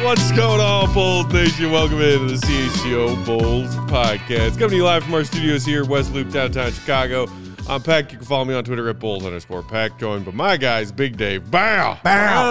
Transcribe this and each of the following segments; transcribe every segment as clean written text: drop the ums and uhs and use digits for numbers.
What's going on, Bulls Nation? Welcome into the CHGO Bulls podcast. Coming to you live from our studios here, West Loop, downtown Chicago. I'm Peck. You can follow me on Twitter at Bulls_Peck. Joined by my guys, Big Dave, BAWW,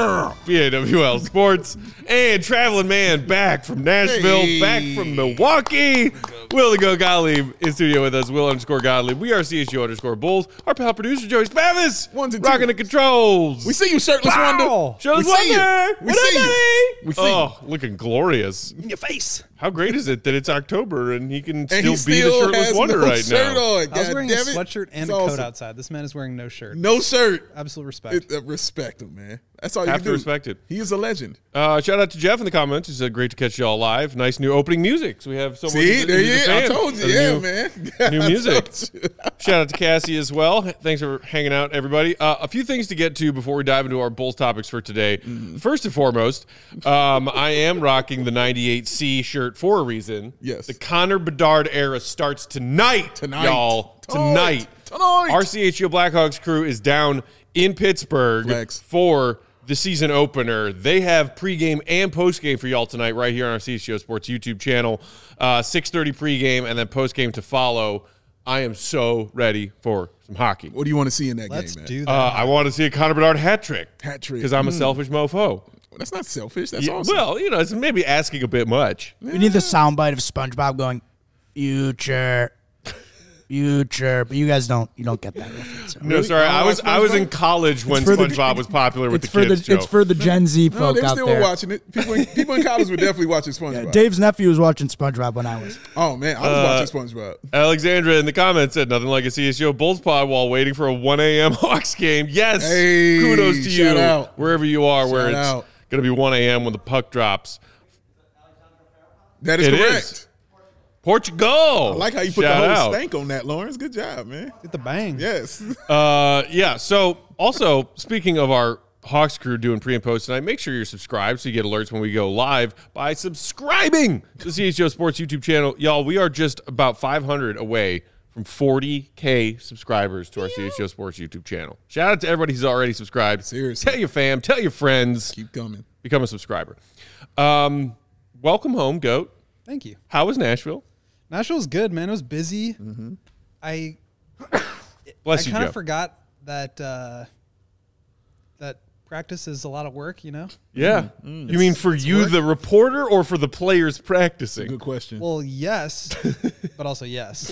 BAWL Sports, and Traveling Man back from Nashville, back from Milwaukee. Will the Go Gottlieb in studio with us, Will_Gottlieb. We are CHGO_Bulls. Our pal producer, Joey Spavis, rocking the controls. We see you, Shirtless Wonder. Shirtless Wonder. We see you. We see you. Looking glorious. In your face. How great is it that it's October and he can still be the Shirtless Wonder right now? On. I was wearing a sweatshirt and a coat outside. This man is wearing no shirt. No shirt. Absolute respect. Respect him, man. That's all you have do. to respect it. He is a legend. Shout out to Jeff in the comments. He said, great to catch you all live. Nice new opening music. So we have someone See, there you go. I told you. Yeah, man. New music. Shout out to Cassie as well. Thanks for hanging out, everybody. A few things to get to before we dive into our Bulls topics for today. First and foremost, I am rocking the 98C shirt for a reason. Yes. The Connor Bedard era starts tonight. Y'all. Tonight. Our CHGO Blackhawks crew is down in Pittsburgh for the season opener. They have pregame and postgame for y'all tonight right here on our CHGO Sports YouTube channel. 6:30 pregame and then postgame to follow. I am so ready for some hockey. What do you want to see in that Let's game, man? do that. I want to see a Connor Bedard hat trick. Hat trick. Because I'm a selfish mofo. That's not selfish. That's awesome. Well, it's maybe asking a bit much. We need the soundbite of SpongeBob going, future, but you guys don't get that reference. So. No, sorry. I was in college when SpongeBob was popular with the kids. It's for the Gen Z folk they're out still there. watching it. People in college were definitely watching SpongeBob. Yeah, Dave's nephew was watching SpongeBob when I was. Oh, man. I was watching SpongeBob. Alexandra in the comments said nothing like a CSGO Bulls pod while waiting for a 1 a.m. Hawks game. Yes. Hey, kudos to you. Out. Wherever you are, where it's out. going to be 1 a.m. when the puck drops. That is correct. Portugal. I like how you put the whole stank on that, Lawrence. Good job, man. Get the bang. Yes. Yeah. So also, speaking of our Hawks crew doing pre and post tonight, make sure you're subscribed so you get alerts when we go live by subscribing to the CHGO Sports YouTube channel. Y'all, we are just about 500 away from 40K subscribers to our CHGO Sports YouTube channel. Shout out to everybody who's already subscribed. Seriously. Tell your fam, tell your friends. Keep coming. Become a subscriber. Welcome home, GOAT. Thank you. How was Nashville? Nashville's good, man. It was busy. I Bless you, kind Joe. of forgot that that practice is a lot of work, Yeah. You mean for you, work. the reporter, or for the players practicing? Good question. Well, yes, but also yes.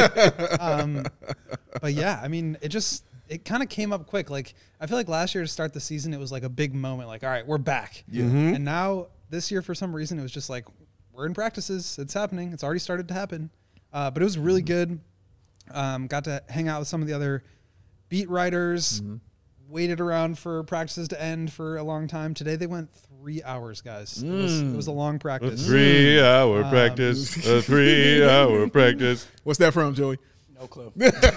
But yeah, I mean, it kind of came up quick. Like, I feel like last year to start the season, it was like a big moment. Like, all right, we're back. Yeah. And now this year, for some reason, it was just like, we're in practices. It's happening. It's already started to happen. But it was really good. Got to hang out with some of the other beat writers. Waited around for practices to end for a long time. Today they went 3 hours, guys. It was a long practice. 3 hour practice. A 3 hour practice. What's that from, Joey? No clue.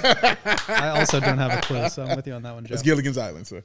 I also don't have a clue, so I'm with you on that one, Joe. That's Gilligan's Island, sir.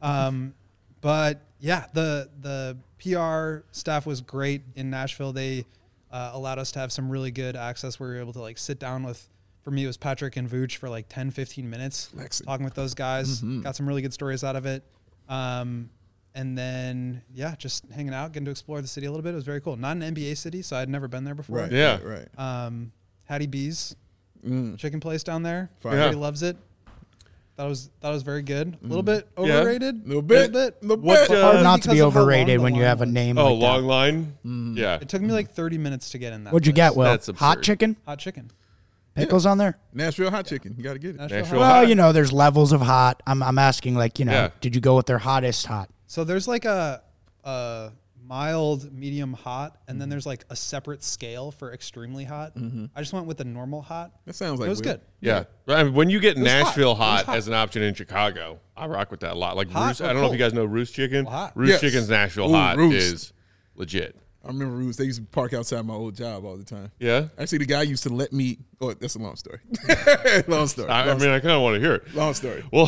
But yeah, the PR staff was great in Nashville. They allowed us to have some really good access. We were able to sit down with, for me, it was Patrick and Vooch for 10, 15 minutes, talking with those guys. Got some really good stories out of it. And then, yeah, just hanging out, getting to explore the city a little bit. It was very cool. Not an NBA city, so I'd never been there before. Right. Yeah. Right. Hattie B's chicken place down there. Fine. Everybody loves it. Thought it was very good. A little bit overrated. Little bit. Hard not to because be of how long overrated the when you line have a was. name Oh, like long that. line? Yeah. It took me 30 minutes to get in that. What'd you get, Will? That's absurd. Hot chicken? Hot chicken. Pickles on there? Nashville hot chicken. You got to get it. Nashville Well, hot. there's levels of hot. I'm asking, Yeah. did you go with their hottest hot? So there's a mild, medium hot, and then there's a separate scale for extremely hot. I just went with the normal hot. That sounds like It was Will. good. Yeah. I mean, when you get was hot. Nashville It was hot hot. as an option in Chicago, I rock with that a lot. Like Hot Roost, or I don't know if cold? you guys know Roost Chicken. Well, hot. Roost Yes. Chicken's Nashville Ooh, hot Roost. is legit. I remember Roost. They used to park outside my old job all the time. Yeah? Actually, the guy used to let me. Oh, that's a long story. long story. I mean, I kind of want to hear it. Long story. We'll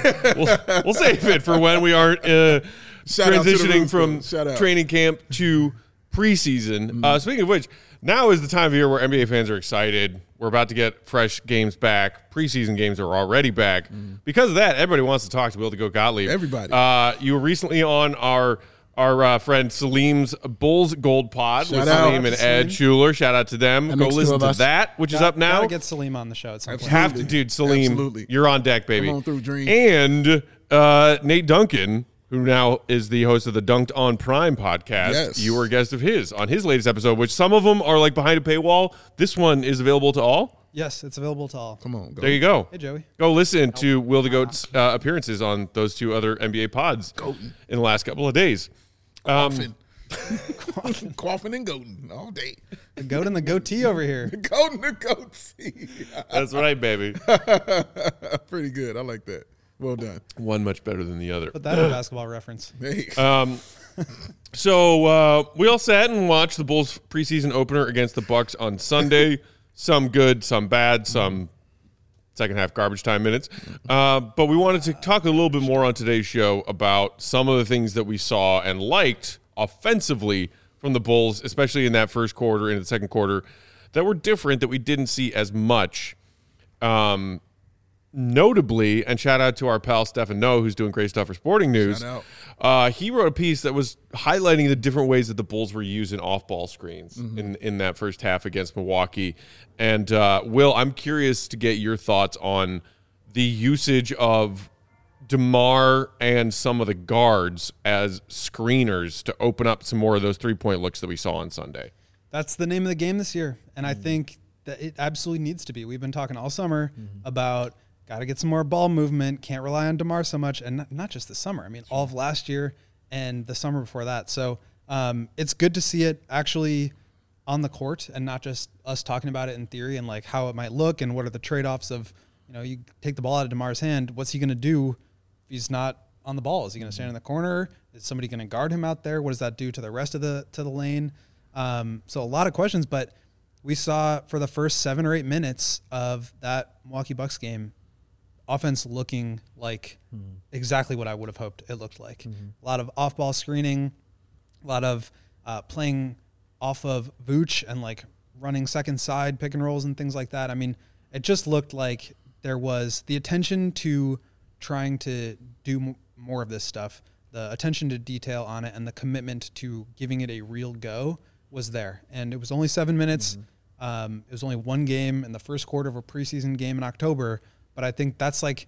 save it for when we aren't Shout out to the transitioning Roost, from though. Shout out. training camp to preseason. Speaking of which, now is the time of year where NBA fans are excited. We're about to get fresh games back. Preseason games are already back. Because of that, everybody wants to talk to Will the Goat Gottlieb. Everybody. You were recently on our our friend Salim's Bulls Gold Pod Shout with out Salim to and Ed Schuler. Shout out to them. That Go makes two listen of to us. that, which is up now. Gotta get Salim on the show at some point. Have to, dude. Salim, Absolutely. you're on deck, baby. Come on through, Dream. And Nate Duncan, who now is the host of the Dunked on Prime podcast. Yes. You were a guest of his on his latest episode, which some of them are like behind a paywall. This one is available to all. Yes, it's available to all. Come on, go. There you go. Hey, Joey. Go listen to Will the Goat's appearances on those two other NBA pods in the last couple of days. Coughing. Coughing and goating all day. The goat and the goatee over here. Goating the goatee. That's right, baby. Pretty good. I like that. Well done. One much better than the other. Put that in a basketball reference. Hey. So we all sat and watched the Bulls preseason opener against the Bucks on Sunday. Some good, some bad, some second half garbage time minutes. But we wanted to talk a little bit more on today's show about some of the things that we saw and liked offensively from the Bulls, especially in that first quarter and the second quarter, that were different, that we didn't see as much. Notably, and shout out to our pal Stefan Noe, who's doing great stuff for Sporting News. He wrote a piece that was highlighting the different ways that the Bulls were using off-ball screens in that first half against Milwaukee. And Will, I'm curious to get your thoughts on the usage of DeMar and some of the guards as screeners to open up some more of those three-point looks that we saw on Sunday. That's the name of the game this year, and I think that it absolutely needs to be. We've been talking all summer about got to get some more ball movement, can't rely on DeMar so much, and not just this summer. I mean, all of last year and the summer before that. So it's good to see it actually on the court and not just us talking about it in theory and like how it might look and what are the trade-offs of, you know, you take the ball out of DeMar's hand, what's he going to do if he's not on the ball? Is he going to stand in the corner? Is somebody going to guard him out there? What does that do to the rest of the lane? So a lot of questions, but we saw for the first 7 or 8 minutes of that Milwaukee Bucks game, offense looking like exactly what I would have hoped it looked like. A lot of off-ball screening, a lot of playing off of Vooch and like running second side pick and rolls and things like that. I mean, it just looked like there was the attention to trying to do more of this stuff, the attention to detail on it, and the commitment to giving it a real go was there. And it was only 7 minutes. It was only one game in the first quarter of a preseason game in October. But I think that's like,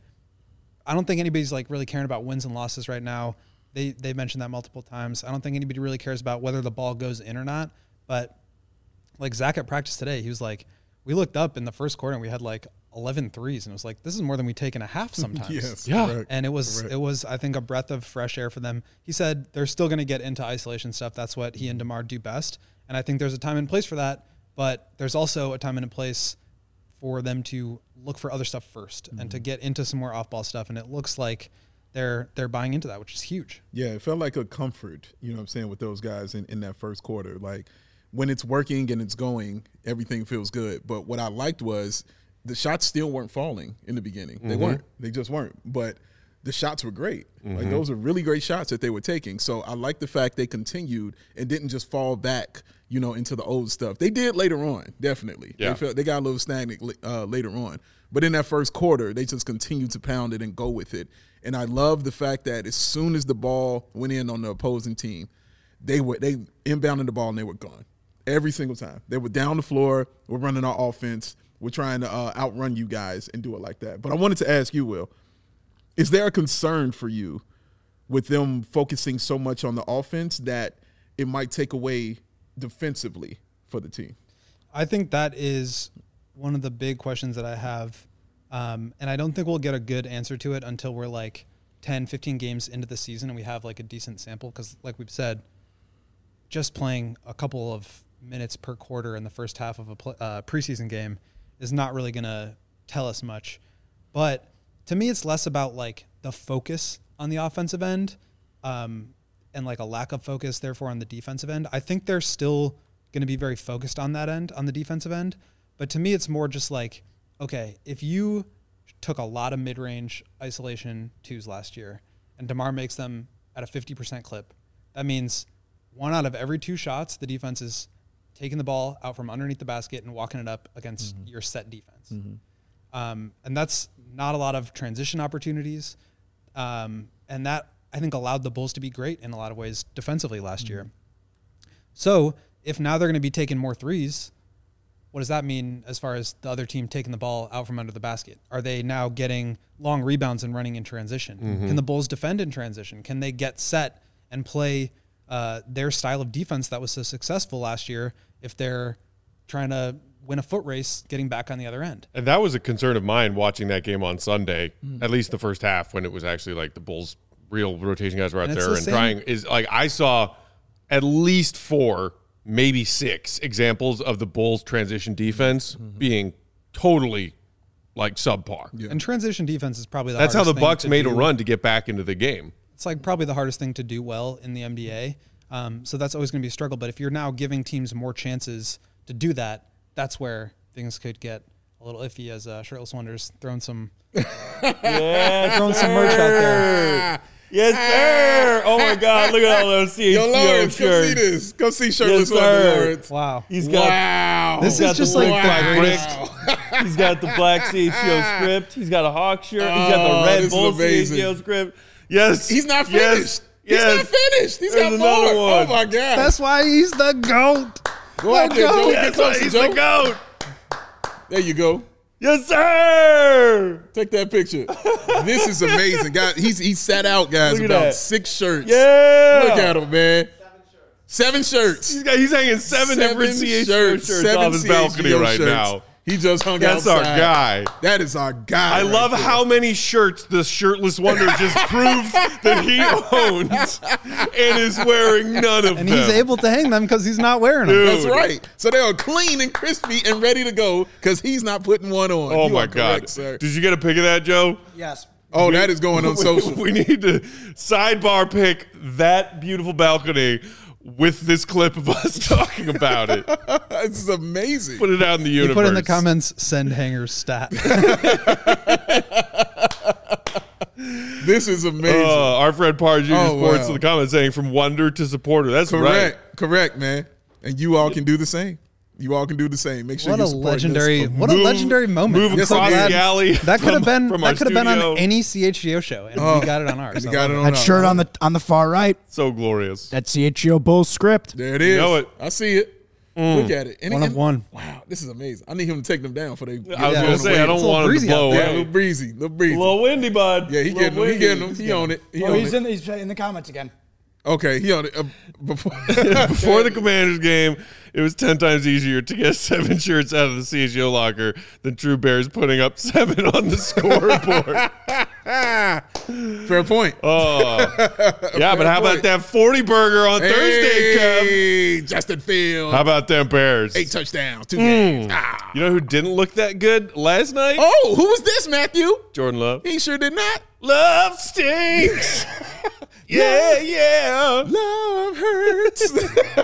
I don't think anybody's like really caring about wins and losses right now. They mentioned that multiple times. I don't think anybody really cares about whether the ball goes in or not. But like Zach at practice today, he was like, we looked up in the first quarter and we had like 11 threes. And it was like, this is more than we take in a half sometimes. Yes. Yeah. Correct. And it was, Correct. I think, a breath of fresh air for them. He said they're still going to get into isolation stuff. That's what he and DeMar do best. And I think there's a time and place for that. But there's also a time and a place for them to look for other stuff first and to get into some more off-ball stuff. And it looks like they're buying into that, which is huge. Yeah, it felt like a comfort, you know what I'm saying, with those guys in that first quarter. Like, when it's working and it's going, everything feels good. But what I liked was the shots still weren't falling in the beginning. They weren't. They just weren't. But the shots were great. Like, those are really great shots that they were taking. So I like the fact they continued and didn't just fall back, you know, into the old stuff. They did later on, definitely. Yeah. They got a little stagnant later on. But in that first quarter, they just continued to pound it and go with it. And I love the fact that as soon as the ball went in on the opposing team, they inbounded the ball and they were gone. Every single time. They were down the floor. We're running our offense. We're trying to outrun you guys and do it like that. But I wanted to ask you, Will, is there a concern for you with them focusing so much on the offense that it might take away defensively for the team? I think that is one of the big questions that I have. And I don't think we'll get a good answer to it until we're like 10, 15 games into the season and we have like a decent sample. Because like we've said, just playing a couple of minutes per quarter in the first half of a preseason game is not really going to tell us much. But to me, it's less about like the focus on the offensive end and like a lack of focus, therefore, on the defensive end. I think they're still going to be very focused on that end, on the defensive end. But to me, it's more just like, okay, if you took a lot of mid-range isolation twos last year and DeMar makes them at a 50% clip, that means 1 out of every 2 shots, the defense is taking the ball out from underneath the basket and walking it up against your set defense. And that's not a lot of transition opportunities. And that I think, allowed the Bulls to be great in a lot of ways defensively last year. So if now they're going to be taking more threes, what does that mean as far as the other team taking the ball out from under the basket? Are they now getting long rebounds and running in transition? Can the Bulls defend in transition? Can they get set and play their style of defense that was so successful last year if they're trying to win a foot race getting back on the other end? And that was a concern of mine watching that game on Sunday, at least the first half, when it was actually like the Bulls' real rotation guys were out there and trying. Is like I saw at least 4, maybe 6 examples of the Bulls' transition defense being totally like subpar. Yeah. And transition defense is probably That's how the Bucks made a do. run to get back into the game. It's like probably the hardest thing to do well in the NBA. So that's always going to be a struggle. But if you're now giving teams more chances to do that, that's where things could get a little iffy, as Shirtless Wonders throwing some throwing some merch out there. Yes, sir. Oh my God! Look at all those CHGO Yo, Lawrence, come see shirts. this. Come see Shirtless Yes, Wonder, sir. Lawrence. Wow. He's got. Wow. This got is just the like black the greatest. He's got the black CHGO script. He's got a Hawk shirt. He's got the Red this is Bull amazing. CHGO script. Yes. He's not finished. Yes. He's not finished. He's There's got more. another one. Oh, my God. That's why he's the GOAT. Go out there, Joe. Get That's why closer, he's Joe. the GOAT. There you go. Yes, sir. Take that picture. This is amazing, guys. He's sat out, guys, Look at about that. 6 shirts. Yeah. Look at him, man. 7 shirts. He's hanging 7 different CHGO shirts off his balcony CHGO right shirts. now. He just hung That's outside. our guy. That is our guy. I right love there. how many shirts the Shirtless Wonder just proved that he owns and is wearing none of And them. he's able to hang them because he's not wearing them. Dude. That's right. So they are clean and crispy and ready to go because he's not putting one on. Oh You my are God. correct, sir. Did you get a pic of that, Joe? Yes. Oh, that is going on social. We need to sidebar pick that beautiful balcony with this clip of us talking about it. This is amazing. Put it out in the universe. Put in the comments, send hangers stat. This is amazing. Our friend Parr Jr. Oh, Sports wow. in the comments saying from wonder to supporter. That's Correct. right. Correct, man. And you all can do the same. You all can do the same. Make sure What you a support legendary, this. what a legendary moment. Move Yes, across it is. the alley. That could have been from our that could have been on studio. any CHGO show, and we got it on ours. You I got it love on That our- shirt on the far right, So glorious. that CHGO Bulls script. There it is. know it. I see it. Look at it. And One of one. Wow, this is amazing. I need him to take them down for they. I was Yeah, going to it's say, I a don't little want him to breezy blow out Yeah, there. a away. little breezy. A little breezy. A little windy, bud. Yeah, he Little getting them. He windy. getting them. He on it. He Oh, on he's it. in the comments again. Okay, he on it. Before Before the Commanders game, it was 10 times easier to get 7 shirts out of the CHGO locker than True Bears putting up 7 on the scoreboard. Fair point. Oh, yeah, but how about point. that 40 burger on Thursday, Kev? Hey, Justin Fields. How about them Bears? 8 touchdowns, 2 games. You know who didn't look that good last night? Oh, who was this, Matthew? Jordan Love. He sure did not. Love stinks. yeah. Love hurts.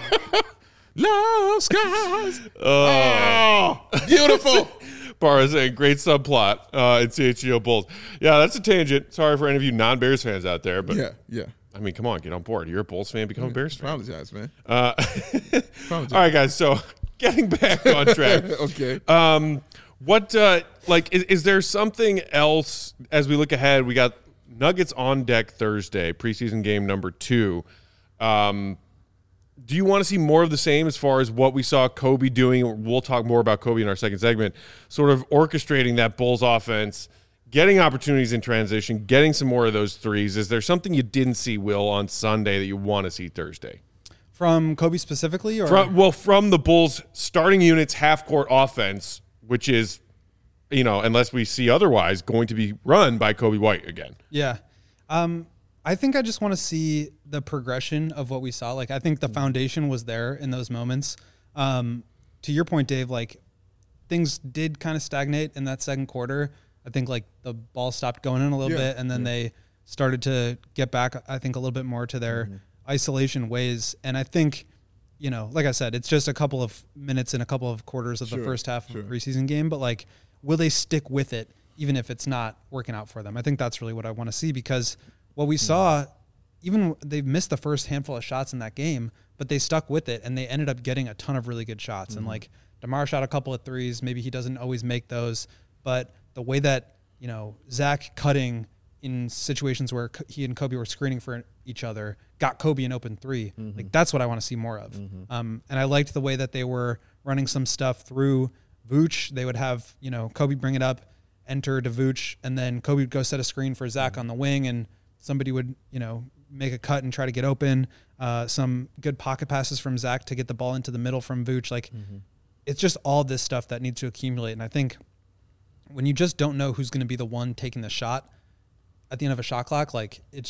Love scars. Oh, beautiful. Barr is saying great subplot in CHGO Bulls. Yeah, that's a tangent. Sorry for any of you non-Bears fans out there, but Yeah. I mean, come on, get on board. You're a Bulls fan, become a Bears fan. Apologize, man. All right, guys. So getting back on track. Okay. What is there something else as we look ahead? We got Nuggets on deck Thursday, preseason game number 2. Do you want to see more of the same as far as what we saw Kobe doing? We'll talk more about Kobe in our second segment, sort of orchestrating that Bulls offense, getting opportunities in transition, getting some more of those threes. Is there something you didn't see, Will, on Sunday that you want to see Thursday? From Kobe specifically, or From the Bulls starting units half-court offense, which is, unless we see otherwise, going to be run by Kobe White again. Yeah. I think I just want to see the progression of what we saw. Like, I think the foundation was there in those moments. To your point, Dave, like, things did kind of stagnate in that second quarter. I think, like, the ball stopped going in a little bit, and then they started to get back, I think, a little bit more to their isolation ways. And I think, like I said, it's just a couple of minutes and a couple of quarters of the first half of the preseason game. But, like, will they stick with it even if it's not working out for them? I think that's really what I want to see, because what we saw, even they missed the first handful of shots in that game, but they stuck with it, and they ended up getting a ton of really good shots. And, like, DeMar shot a couple of threes. Maybe he doesn't always make those, but the way that, Zach cutting in situations where he and Kobe were screening for each other, got Kobe an open three. Like that's what I want to see more of. And I liked the way that they were running some stuff through Vooch. They would have, Kobe bring it up, enter to Vooch, and then Kobe would go set a screen for Zach on the wing, and somebody would, make a cut and try to get open. Some good pocket passes from Zach to get the ball into the middle from Vooch. Like it's just all this stuff that needs to accumulate. And I think when you just don't know who's going to be the one taking the shot at the end of a shot clock, like it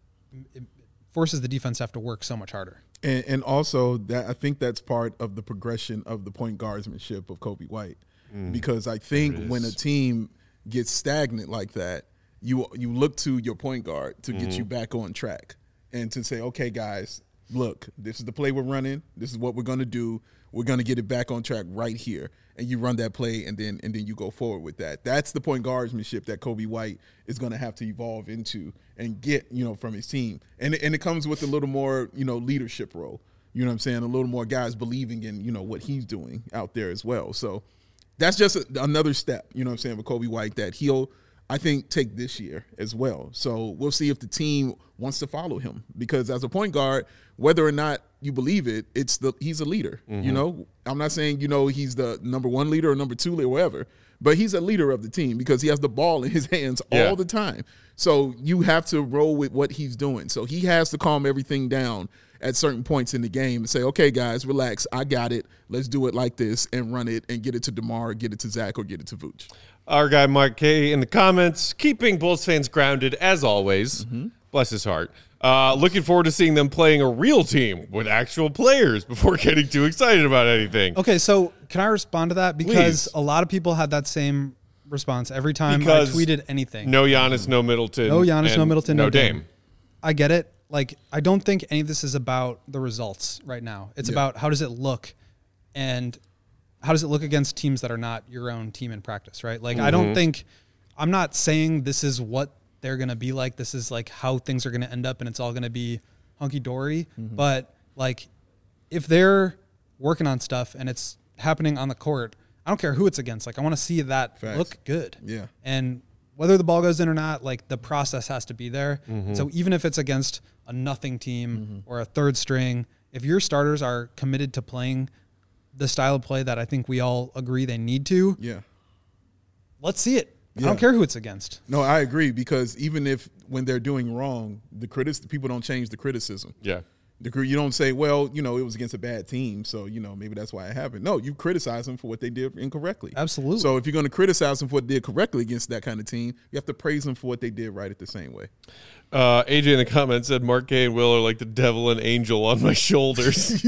forces the defense to have to work so much harder. And also that I think that's part of the progression of the point guardsmanship of Kobe White, because I think when a team gets stagnant like that, you look to your point guard to get you back on track and to say, okay, guys, look, this is the play we're running. This is what we're going to do. We're going to get it back on track right here. And you run that play, and then you go forward with that. That's the point guardsmanship that Kobe White is going to have to evolve into and get, from his team. And it comes with a little more, leadership role. You know what I'm saying? A little more guys believing in, what he's doing out there as well. So that's just another step, with Kobe White that he'll, I think, take this year as well. So we'll see if the team wants to follow him, because as a point guard, whether or not you believe it, he's a leader. I'm not saying, he's the number one leader or number two leader or whatever, but he's a leader of the team because he has the ball in his hands all the time. So you have to roll with what he's doing. So he has to calm everything down at certain points in the game and say, okay, guys, relax. I got it. Let's do it like this and run it and get it to DeMar, get it to Zach, or get it to Vooch. Our guy Mark K in the comments, keeping Bulls fans grounded as always. Bless his heart. Looking forward to seeing them playing a real team with actual players before getting too excited about anything. Okay, so can I respond to that? Because a lot of people had that same response every time I tweeted anything. No Giannis, no Middleton. No Giannis, no Middleton, no Dame. I get it. Like, I don't think any of this is about the results right now. It's about how does it look, and how does it look against teams that are not your own team in practice, right? Like, I don't think – I'm not saying this is what they're going to be like. This is, like, how things are going to end up, and it's all going to be hunky-dory. But, like, if they're working on stuff and it's happening on the court, I don't care who it's against. Like, I want to see that look good. Yeah. And whether the ball goes in or not, like, the process has to be there. So even if it's against a nothing team or a third string, if your starters are committed to playing the style of play that I think we all agree they need to, let's see it. I don't care who it's against. No, I agree, because even if when they're doing wrong, the people don't change the criticism. Yeah. You don't say, well, it was against a bad team, so, maybe that's why it happened. No, you criticize them for what they did incorrectly. Absolutely. So if you're going to criticize them for what they did correctly against that kind of team, you have to praise them for what they did right at the same way. AJ in the comments said Mark K and Will are like the devil and angel on my shoulders.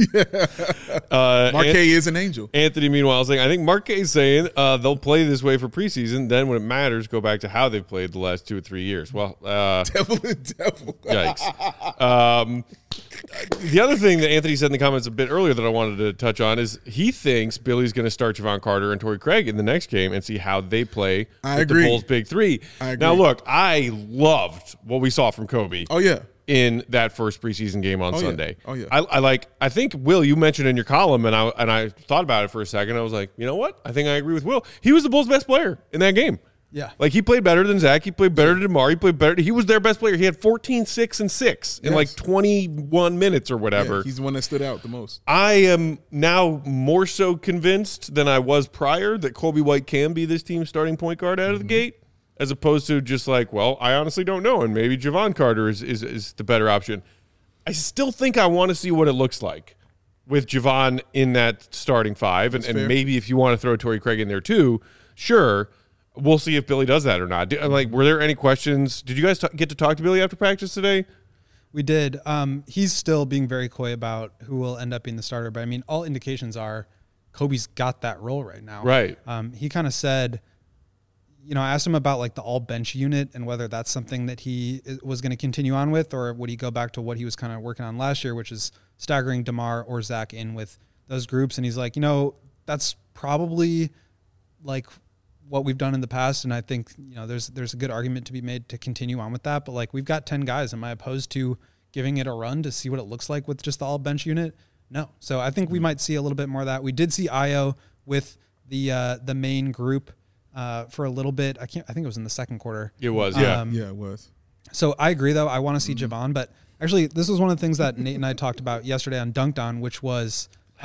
Mark K is an angel. Anthony, meanwhile, is saying, I think Mark K is saying they'll play this way for preseason. Then when it matters, go back to how they've played the last 2 or 3 years. Well, devil and devil. Yikes. The other thing that Anthony said in the comments a bit earlier that I wanted to touch on is he thinks Billy's going to start Javon Carter and Torrey Craig in the next game and see how they play with the Bulls' big three. I agree. Now, look, I loved what we saw from Kobe. Oh, yeah. In that first preseason game on Sunday. Oh, yeah. I think, Will, you mentioned in your column, and I thought about it for a second. I was like, you know what? I think I agree with Will. He was the Bulls' best player in that game. Yeah. Like, he played better than Zach. He played better than DeMar. He played better. He was their best player. He had 14, 6, and 6 in like 21 minutes or whatever. Yeah, he's the one that stood out the most. I am now more so convinced than I was prior that Kobe White can be this team's starting point guard out of the gate, as opposed to just like, well, I honestly don't know, and maybe Javon Carter is the better option. I still think I want to see what it looks like with Javon in that starting five, and maybe if you want to throw Torrey Craig in there too, sure. We'll see if Billy does that or not. Were there any questions? Did you guys get to talk to Billy after practice today? We did. He's still being very coy about who will end up being the starter, but I mean, all indications are Kobe's got that role right now. Right. He kind of said, I asked him about like the all bench unit and whether that's something that he was going to continue on with, or would he go back to what he was kind of working on last year, which is staggering DeMar or Zach in with those groups. And he's like, that's probably like what we've done in the past, and I think there's a good argument to be made to continue on with that. But like, we've got 10 guys. Am I opposed to giving it a run to see what it looks like with just the all bench unit? No. So I think we might see a little bit more of that. We did see Ayo with the main group for a little bit. I think it was in the second quarter. It was, Yeah, it was. So I agree, though. I want to see Javon, but actually, this was one of the things that Nate and I talked about yesterday on Dunked On, which was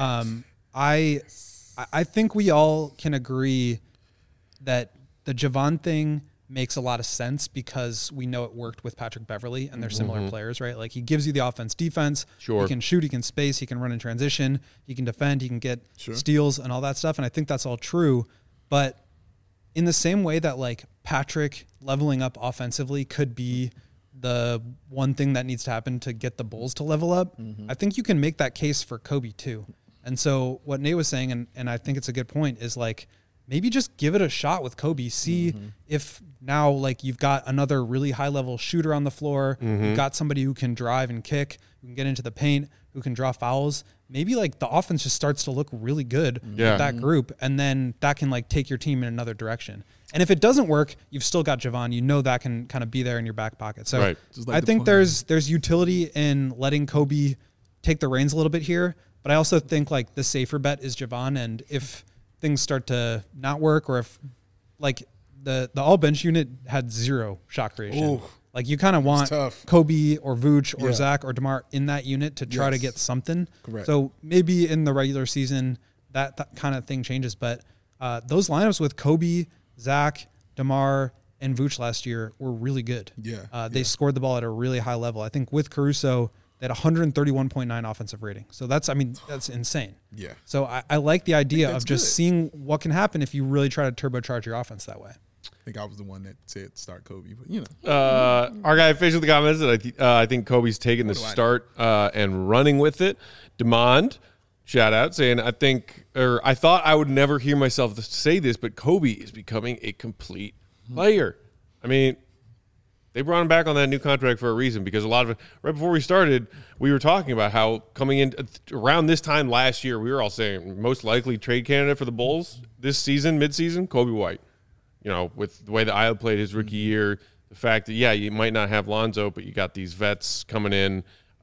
I think we all can agree that the Javon thing makes a lot of sense because we know it worked with Patrick Beverley and they're similar players, right? Like he gives you the offense, defense. Sure. He can shoot, he can space, he can run in transition, he can defend, he can get steals and all that stuff. And I think that's all true. But in the same way that like Patrick leveling up offensively could be the one thing that needs to happen to get the Bulls to level up, I think you can make that case for Kobe too. And so what Nate was saying, and I think it's a good point, is like maybe just give it a shot with Kobe. See if now like you've got another really high level shooter on the floor, you've got somebody who can drive and kick, who can get into the paint, who can draw fouls. Maybe like the offense just starts to look really good with that group, and then that can like take your team in another direction. And if it doesn't work, you've still got Javon. You know that can kind of be there in your back pocket. So I think there's utility in letting Kobe take the reins a little bit here, but I also think like the safer bet is Javon. And if things start to not work, or if like the all bench unit had 0 shot creation, like you kind of want Kobe or Vooch or Zach or DeMar in that unit to try to get something. Correct. So maybe in the regular season that kind of thing changes, but those lineups with Kobe, Zach, DeMar, and Vooch last year were really good. They scored the ball at a really high level. I think with Caruso, they had 131.9 offensive rating. So that's insane. Yeah. So I like the idea of just seeing what can happen if you really try to turbocharge your offense that way. I think I was the one that said start Kobe, but you know. Our guy officially in the comments that I think Kobe's taking the start and running with it. Demond, shout out, saying I thought I would never hear myself say this, but Kobe is becoming a complete player. I mean, they brought him back on that new contract for a reason, because a lot of it, right before we started, we were talking about how coming in around this time last year, we were all saying most likely trade candidate for the Bulls this season, midseason, Kobe White. You know, with the way that Io played his rookie year, the fact that, you might not have Lonzo, but you got these vets coming in.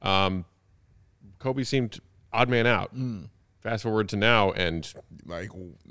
Kobe seemed odd man out. Fast forward to now, and like,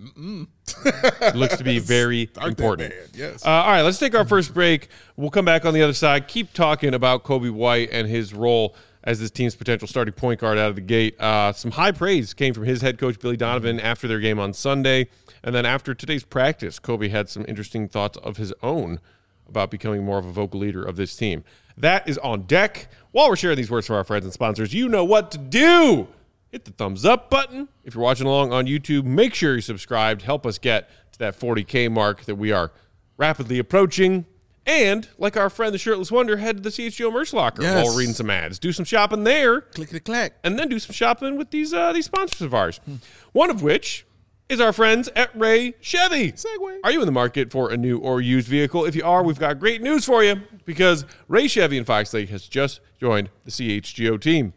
it looks to be very important. Yes. All right, let's take our first break. We'll come back on the other side. Keep talking about Kobe White and his role as this team's potential starting point guard out of the gate. Some high praise came from his head coach, Billy Donovan, after their game on Sunday. And then after today's practice, Kobe had some interesting thoughts of his own about becoming more of a vocal leader of this team. That is on deck. While we're sharing these words from our friends and sponsors, you know what to do. Hit the thumbs up button. If you're watching along on YouTube, make sure you're subscribed. Help us get to that 40K mark that we are rapidly approaching. And, like our friend the Shirtless Wonder, head to the CHGO merch locker while we're reading some ads. Do some shopping there. Click-a-clack. And then do some shopping with these sponsors of ours. One of which is our friends at Ray Chevy. Segway. Are you in the market for a new or used vehicle? If you are, we've got great news for you, because Ray Chevy in Fox Lake has just joined the CHGO team.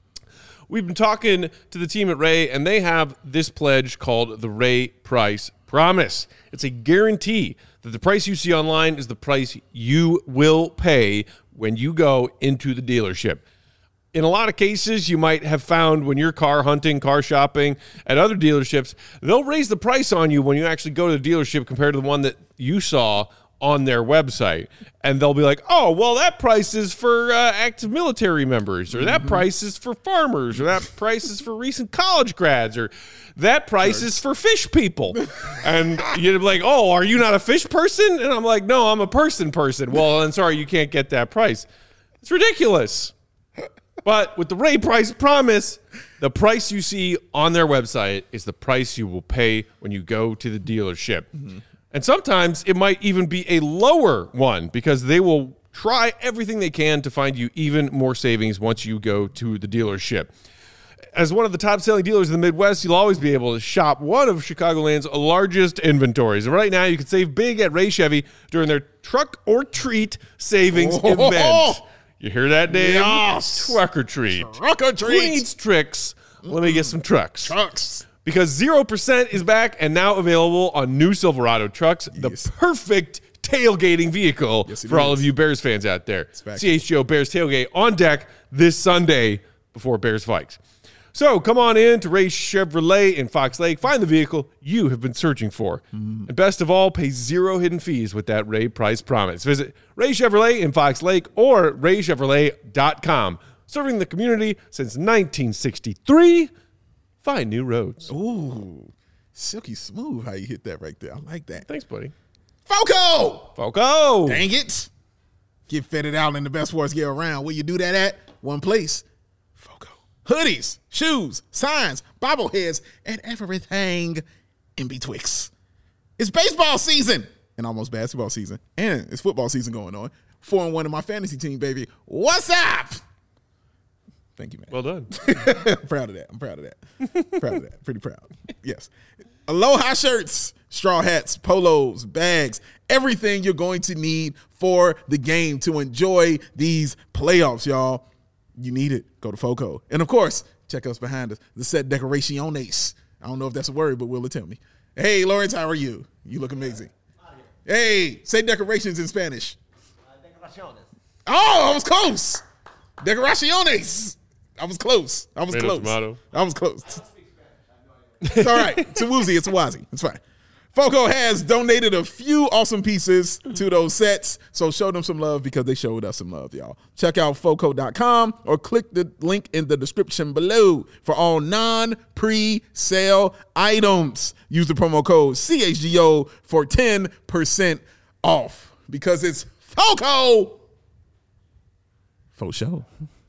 We've been talking to the team at Ray, and they have this pledge called the Ray Price Promise. It's a guarantee that the price you see online is the price you will pay when you go into the dealership. In a lot of cases, you might have found when you're car hunting, car shopping at other dealerships, they'll raise the price on you when you actually go to the dealership compared to the one that you saw on their website. And they'll be like, oh, well, that price is for active military members, or that price is for farmers, or that price is for recent college grads, or that price is for fish people. And you'd be like, oh, are you not a fish person? And I'm like, no, I'm a person. Well, then sorry, you can't get that price. It's ridiculous. But with the Ray Price Promise, the price you see on their website is the price you will pay when you go to the dealership. And sometimes it might even be a lower one, because they will try everything they can to find you even more savings once you go to the dealership. As one of the top-selling dealers in the Midwest, you'll always be able to shop one of Chicagoland's largest inventories. And right now, you can save big at Ray Chevy during their Truck or Treat savings event. You hear that, Dave? Yes. Truck or Treat. Truck or Treat. Who needs tricks? Let me get some trucks. Trucks. Because 0% is back and now available on new Silverado trucks, the perfect tailgating vehicle for all of you Bears fans out there. CHGO Bears Tailgate on deck this Sunday before Bears Vikes. So come on in to Ray Chevrolet in Fox Lake. Find the vehicle you have been searching for. And best of all, pay zero hidden fees with that Ray price promise. Visit Ray Chevrolet in Fox Lake or raychevrolet.com. Serving the community since 1963. Find new roads. Ooh, silky smooth how you hit that right there. I like that. Thanks, buddy. Foco! Dang it. Get fitted out in the best sports gear around. Where you do that at? One place. Foco. Hoodies, shoes, signs, bobbleheads, and everything in betwixt. It's baseball season and almost basketball season. And it's football season going on. 4-1 in my fantasy team, baby. What's up? Thank you, man. Well done. I'm proud of that. Pretty proud. Yes. Aloha shirts, straw hats, polos, bags, everything you're going to need for the game to enjoy these playoffs, y'all. You need it. Go to Foco. And, of course, check us behind us. The set decoraciones. I don't know if that's a word, but Will will tell me. Hey, Lawrence, how are you? You look amazing. Hey, say decorations in Spanish. Decoraciones. Oh, I was close. Decoraciones. I was close. Tomato. I was close. It's all right. It's a woozy. It's a wazi. It's fine. Foco has donated a few awesome pieces to those sets, so show them some love because they showed us some love, y'all. Check out Foco.com or click the link in the description below for all non-pre-sale items. Use the promo code CHGO for 10% off because it's Foco. Faux show.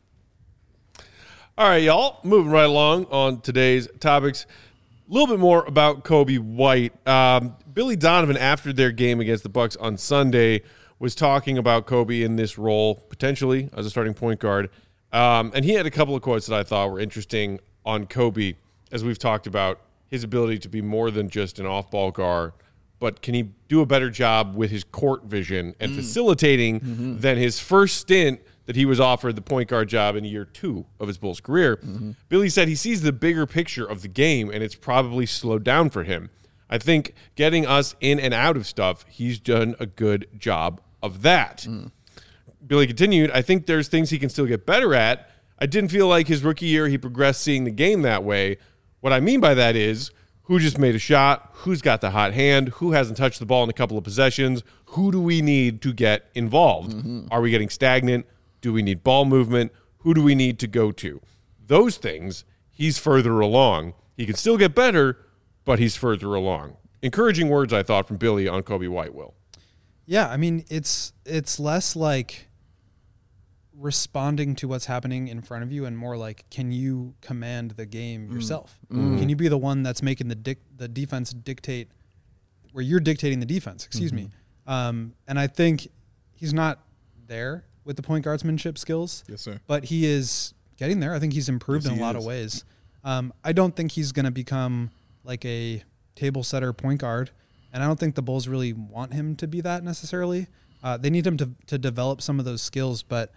All right, y'all. Moving right along on today's topics. A little bit more about Coby White. Billy Donovan, after their game against the Bucks on Sunday, was talking about Coby in this role, potentially as a starting point guard. And he had a couple of quotes that I thought were interesting on Coby, as we've talked about his ability to be more than just an off-ball guard, but can he do a better job with his court vision and facilitating than his first stint that he was offered the point guard job in year 2 of his Bulls career. Billy said he sees the bigger picture of the game, and it's probably slowed down for him. I think getting us in and out of stuff, he's done a good job of that. Billy continued, I think there's things he can still get better at. I didn't feel like his rookie year he progressed seeing the game that way. What I mean by that is who just made a shot, who's got the hot hand, who hasn't touched the ball in a couple of possessions, who do we need to get involved? Are we getting stagnant? Do we need ball movement? Who do we need to go to? Those things, he's further along. He can still get better, but he's further along. Encouraging words, I thought, from Billy on Coby White, Will. Yeah, I mean, it's less like responding to what's happening in front of you and more like, can you command the game yourself? Can you be the one that's making the defense dictate, where you're dictating the defense, excuse me. And I think he's not there with the point guardsmanship skills. Yes, sir. But he is getting there. I think he's improved in a lot of ways. I don't think he's going to become like a table setter point guard, and I don't think the Bulls really want him to be that necessarily. They need him to develop some of those skills, but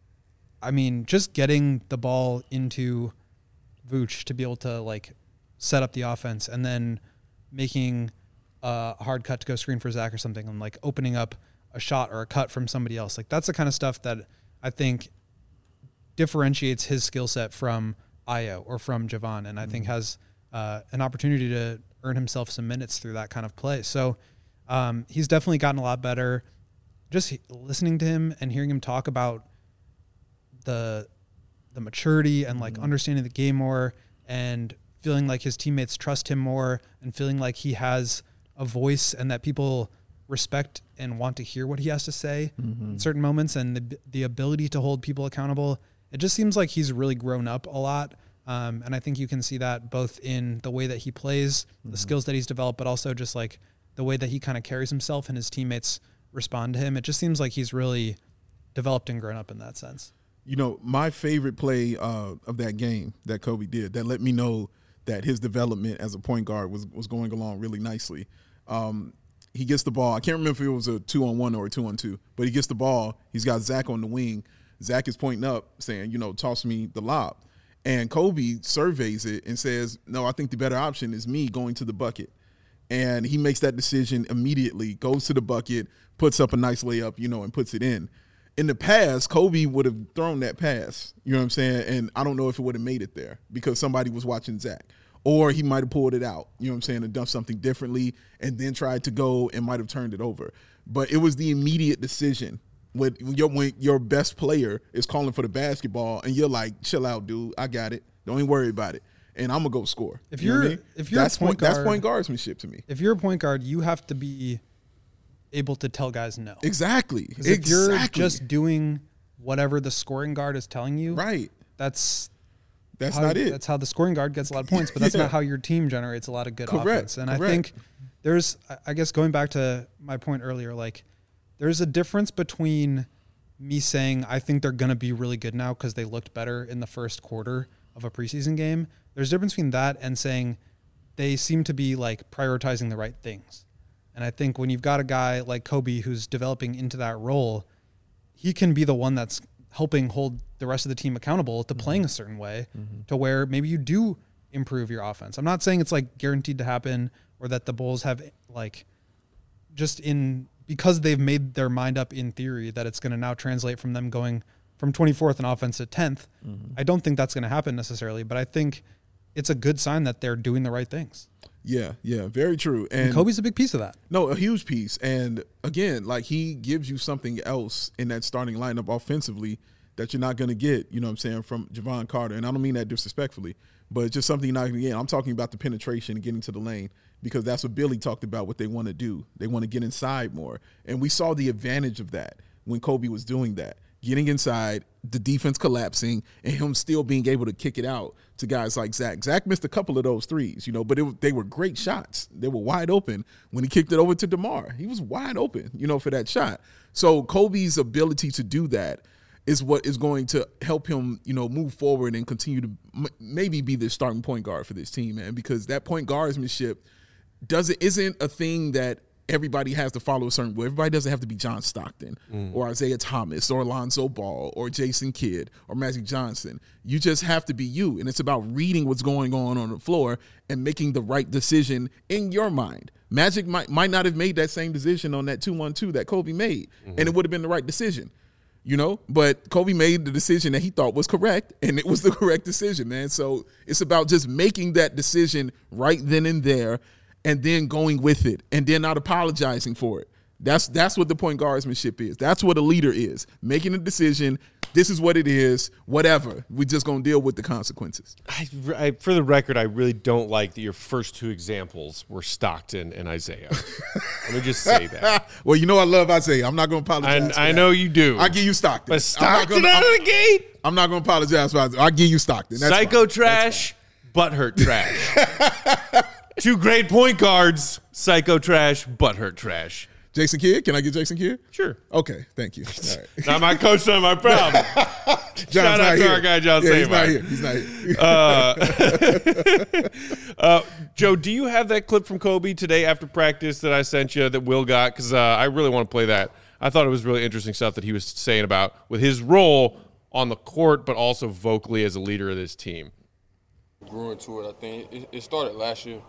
I mean, just getting the ball into Vooch to be able to like set up the offense and then making a hard cut to go screen for Zach or something and like opening up a shot or a cut from somebody else. Like that's the kind of stuff that I think differentiates his skill set from Ayo or from Javon, and I think has an opportunity to earn himself some minutes through that kind of play. So he's definitely gotten a lot better. Just listening to him and hearing him talk about the maturity and like understanding the game more and feeling like his teammates trust him more and feeling like he has a voice and that people respect and want to hear what he has to say in certain moments, and the ability to hold people accountable. It just seems like he's really grown up a lot. And I think you can see that both in the way that he plays, the skills that he's developed, but also just like the way that he kind of carries himself and his teammates respond to him. It just seems like he's really developed and grown up in that sense. You know, my favorite play of that game that Coby did that let me know that his development as a point guard was going along really nicely. He gets the ball. I can't remember if it was a 2-on-1 or a 2-on-2, but he gets the ball. He's got Zach on the wing. Zach is pointing up saying, toss me the lob. And Coby surveys it and says, no, I think the better option is me going to the bucket. And he makes that decision immediately, goes to the bucket, puts up a nice layup, and puts it in. In the past, Kobe would have thrown that pass, you know what I'm saying? And I don't know if it would have made it there because somebody was watching Zach. Or he might have pulled it out, you know what I'm saying, and done something differently and then tried to go and might have turned it over. But it was the immediate decision when your best player is calling for the basketball and you're like, chill out, dude, I got it. Don't even worry about it. And I'm going to go score. If you're that's a point guard, that's point guardsmanship to me. If you're a point guard, you have to be able to tell guys no. Exactly. If you're just doing whatever the scoring guard is telling you, right, that's not it. That's how the scoring guard gets a lot of points, but that's not how your team generates a lot of good offense. And I think I guess going back to my point earlier, like there's a difference between me saying I think they're going to be really good now because they looked better in the first quarter of a preseason game. There's a difference between that and saying they seem to be like prioritizing the right things. And I think when you've got a guy like Kobe who's developing into that role, he can be the one that's helping hold the rest of the team accountable to playing a certain way to where maybe you do improve your offense. I'm not saying it's like guaranteed to happen or that the Bulls have like just because they've made their mind up in theory that it's going to now translate from them going from 24th in offense to 10th. I don't think that's going to happen necessarily, but I think it's a good sign that they're doing the right things. Yeah, very true. And Kobe's a big piece of that. No, a huge piece. And again, like he gives you something else in that starting lineup offensively that you're not going to get, you know what I'm saying, from Javon Carter. And I don't mean that disrespectfully, but it's just something you're not going to get. I'm talking about the penetration and getting to the lane because that's what Billy talked about, what they want to do. They want to get inside more. And we saw the advantage of that when Kobe was doing that. Getting inside, the defense collapsing, and him still being able to kick it out to guys like Zach. Zach missed a couple of those threes, you know, but they were great shots. They were wide open. When he kicked it over to DeMar, he was wide open, you know, for that shot. So Kobe's ability to do that is what is going to help him, you know, move forward and continue to maybe be the starting point guard for this team, man, because that point guardsmanship isn't a thing that everybody has to follow a certain way. Everybody doesn't have to be John Stockton or Isaiah Thomas or Alonzo Ball or Jason Kidd or Magic Johnson. You just have to be you, and it's about reading what's going on the floor and making the right decision in your mind. Magic might not have made that same decision on that 2-1-2 that Kobe made, and it would have been the right decision, you know? But Kobe made the decision that he thought was correct, and it was the correct decision, man. So it's about just making that decision right then and there and then going with it, and then not apologizing for it. That's what the point guardsmanship is. That's what a leader is. Making a decision, this is what it is, whatever. We're just going to deal with the consequences. For the record, I really don't like that your first two examples were Stockton and Isaiah. Let me just say that. Well, you know I love Isaiah. I'm not going to apologize. I know you do. I'll give you Stockton. But Stockton out of the gate? I'm not going to apologize for Isaiah. I'll give you Stockton. That's Psycho fine. trash, butthurt trash. Two great point guards, psycho trash, butthurt trash. Jason Kidd? Can I get Jason Kidd? Sure. Okay, thank you. All right. Not my coach, not my problem. Shout out to our guy, John Saban. He's not here. Joe, do you have that clip from Kobe today after practice that I sent you that Will got? Because I really want to play that. I thought it was really interesting stuff that he was saying about with his role on the court, but also vocally as a leader of this team. Grew into it, I think. It started last year.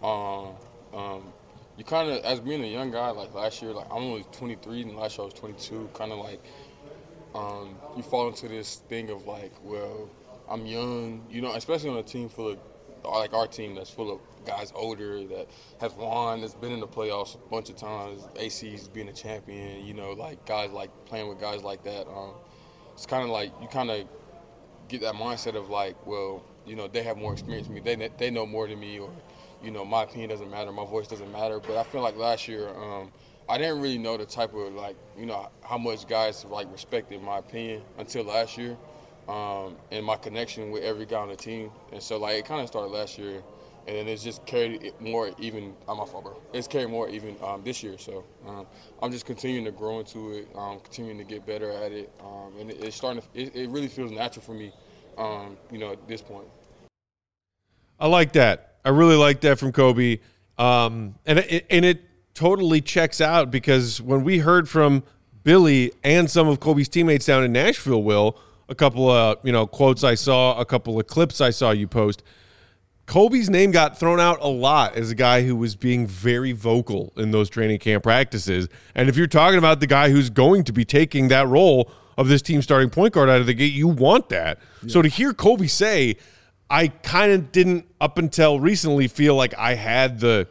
You kind of, as being a young guy, like last year, like I'm only 23 and last year I was 22, kind of like you fall into this thing of like, well, I'm young, you know, especially on a team full of, like our team that's full of guys older that has won, that's been in the playoffs a bunch of times, AC's being a champion, you know, like guys like playing with guys like that. It's kind of like you kind of get that mindset of like, well, you know, they have more experience than me, they know more than me, or you know, my opinion doesn't matter, my voice doesn't matter. But I feel like last year, I didn't really know the type of, like, you know, how much guys, like, respected my opinion until last year, and my connection with every guy on the team. And so, like, it kind of started last year, and then it's just carried it more even – my fault, bro. It's carried more even this year. So I'm just continuing to grow into it, continuing to get better at it, and it's starting to – it really feels natural for me, you know, at this point. I like that. I really like that from Kobe. And it totally checks out because when we heard from Billy and some of Kobe's teammates down in Nashville, Will, a couple of, you know, quotes I saw, a couple of clips I saw you post, Kobe's name got thrown out a lot as a guy who was being very vocal in those training camp practices. And if you're talking about the guy who's going to be taking that role of this team starting point guard out of the gate, you want that. Yeah. So to hear Kobe say, I kind of didn't up until recently feel like I had the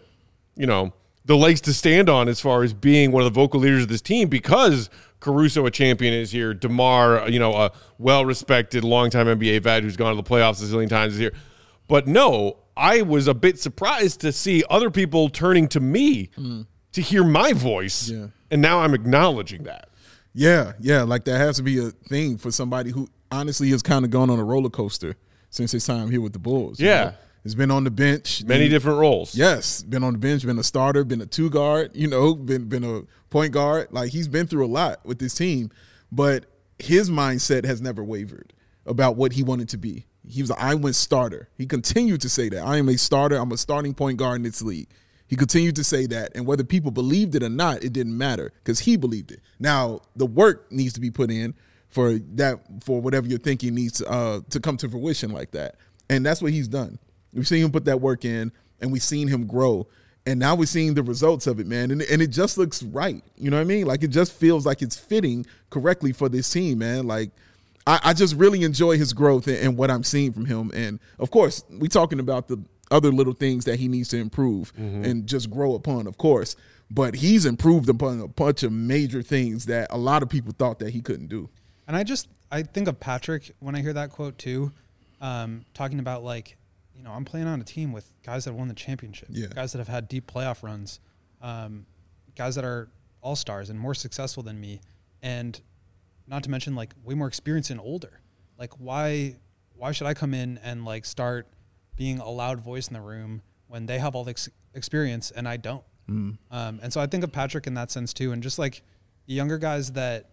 legs to stand on as far as being one of the vocal leaders of this team, because Caruso, a champion, is here. DeMar, a well-respected, longtime NBA vet who's gone to the playoffs a zillion times, is here. But no, I was a bit surprised to see other people turning to me to hear my voice, and now I'm acknowledging that. Yeah, like that has to be a thing for somebody who honestly has kind of gone on a roller coaster since his time here with the Bulls. Yeah. He's been on the bench. Many different roles. Yes, been on the bench, been a starter, been a two guard, been a point guard. Like, he's been through a lot with this team, but his mindset has never wavered about what he wanted to be. He was I went starter. He continued to say that. I am a starter. I'm a starting point guard in this league. He continued to say that, and whether people believed it or not, it didn't matter because he believed it. Now, the work needs to be put in for whatever you're thinking needs to come to fruition like that, and that's what he's done. We've seen him put that work in, and we've seen him grow, and now we're seeing the results of it, man, and it just looks right. You know what I mean? Like, it just feels like it's fitting correctly for this team, man. Like, I just really enjoy his growth and what I'm seeing from him. And, of course, we're talking about the other little things that he needs to improve and just grow upon, of course. But he's improved upon a bunch of major things that a lot of people thought that he couldn't do. And I think of Patrick when I hear that quote too, talking about, like, I'm playing on a team with guys that won the championship, guys that have had deep playoff runs, guys that are all-stars and more successful than me. And not to mention, like, way more experienced and older. Like, why should I come in and, like, start being a loud voice in the room when they have all the experience and I don't? And so I think of Patrick in that sense too. And just, like, the younger guys that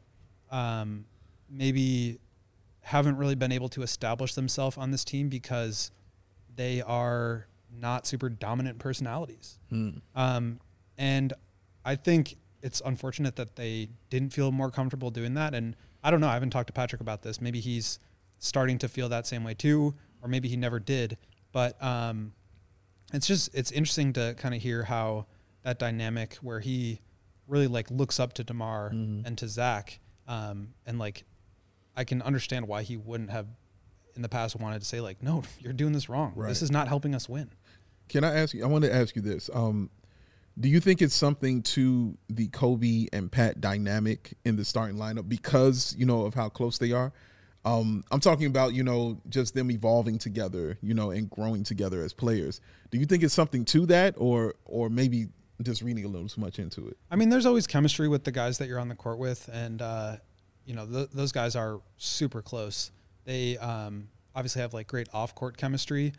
maybe haven't really been able to establish themselves on this team because they are not super dominant personalities. And I think it's unfortunate that they didn't feel more comfortable doing that. And I don't know. I haven't talked to Patrick about this. Maybe he's starting to feel that same way too, or maybe he never did. But it's interesting to kind of hear how that dynamic where he really, like, looks up to DeMar and to Zach. And, like, I can understand why he wouldn't have in the past wanted to say, like, no, you're doing this wrong. Right. This is not helping us win. Can I ask you, I want to ask you this. Do you think it's something to the Kobe and Pat dynamic in the starting lineup because, of how close they are? I'm talking about, just them evolving together, and growing together as players. Do you think it's something to that or maybe just reading a little too much into it? I mean, there's always chemistry with the guys that you're on the court with. And, those guys are super close. They obviously have, like, great off-court chemistry.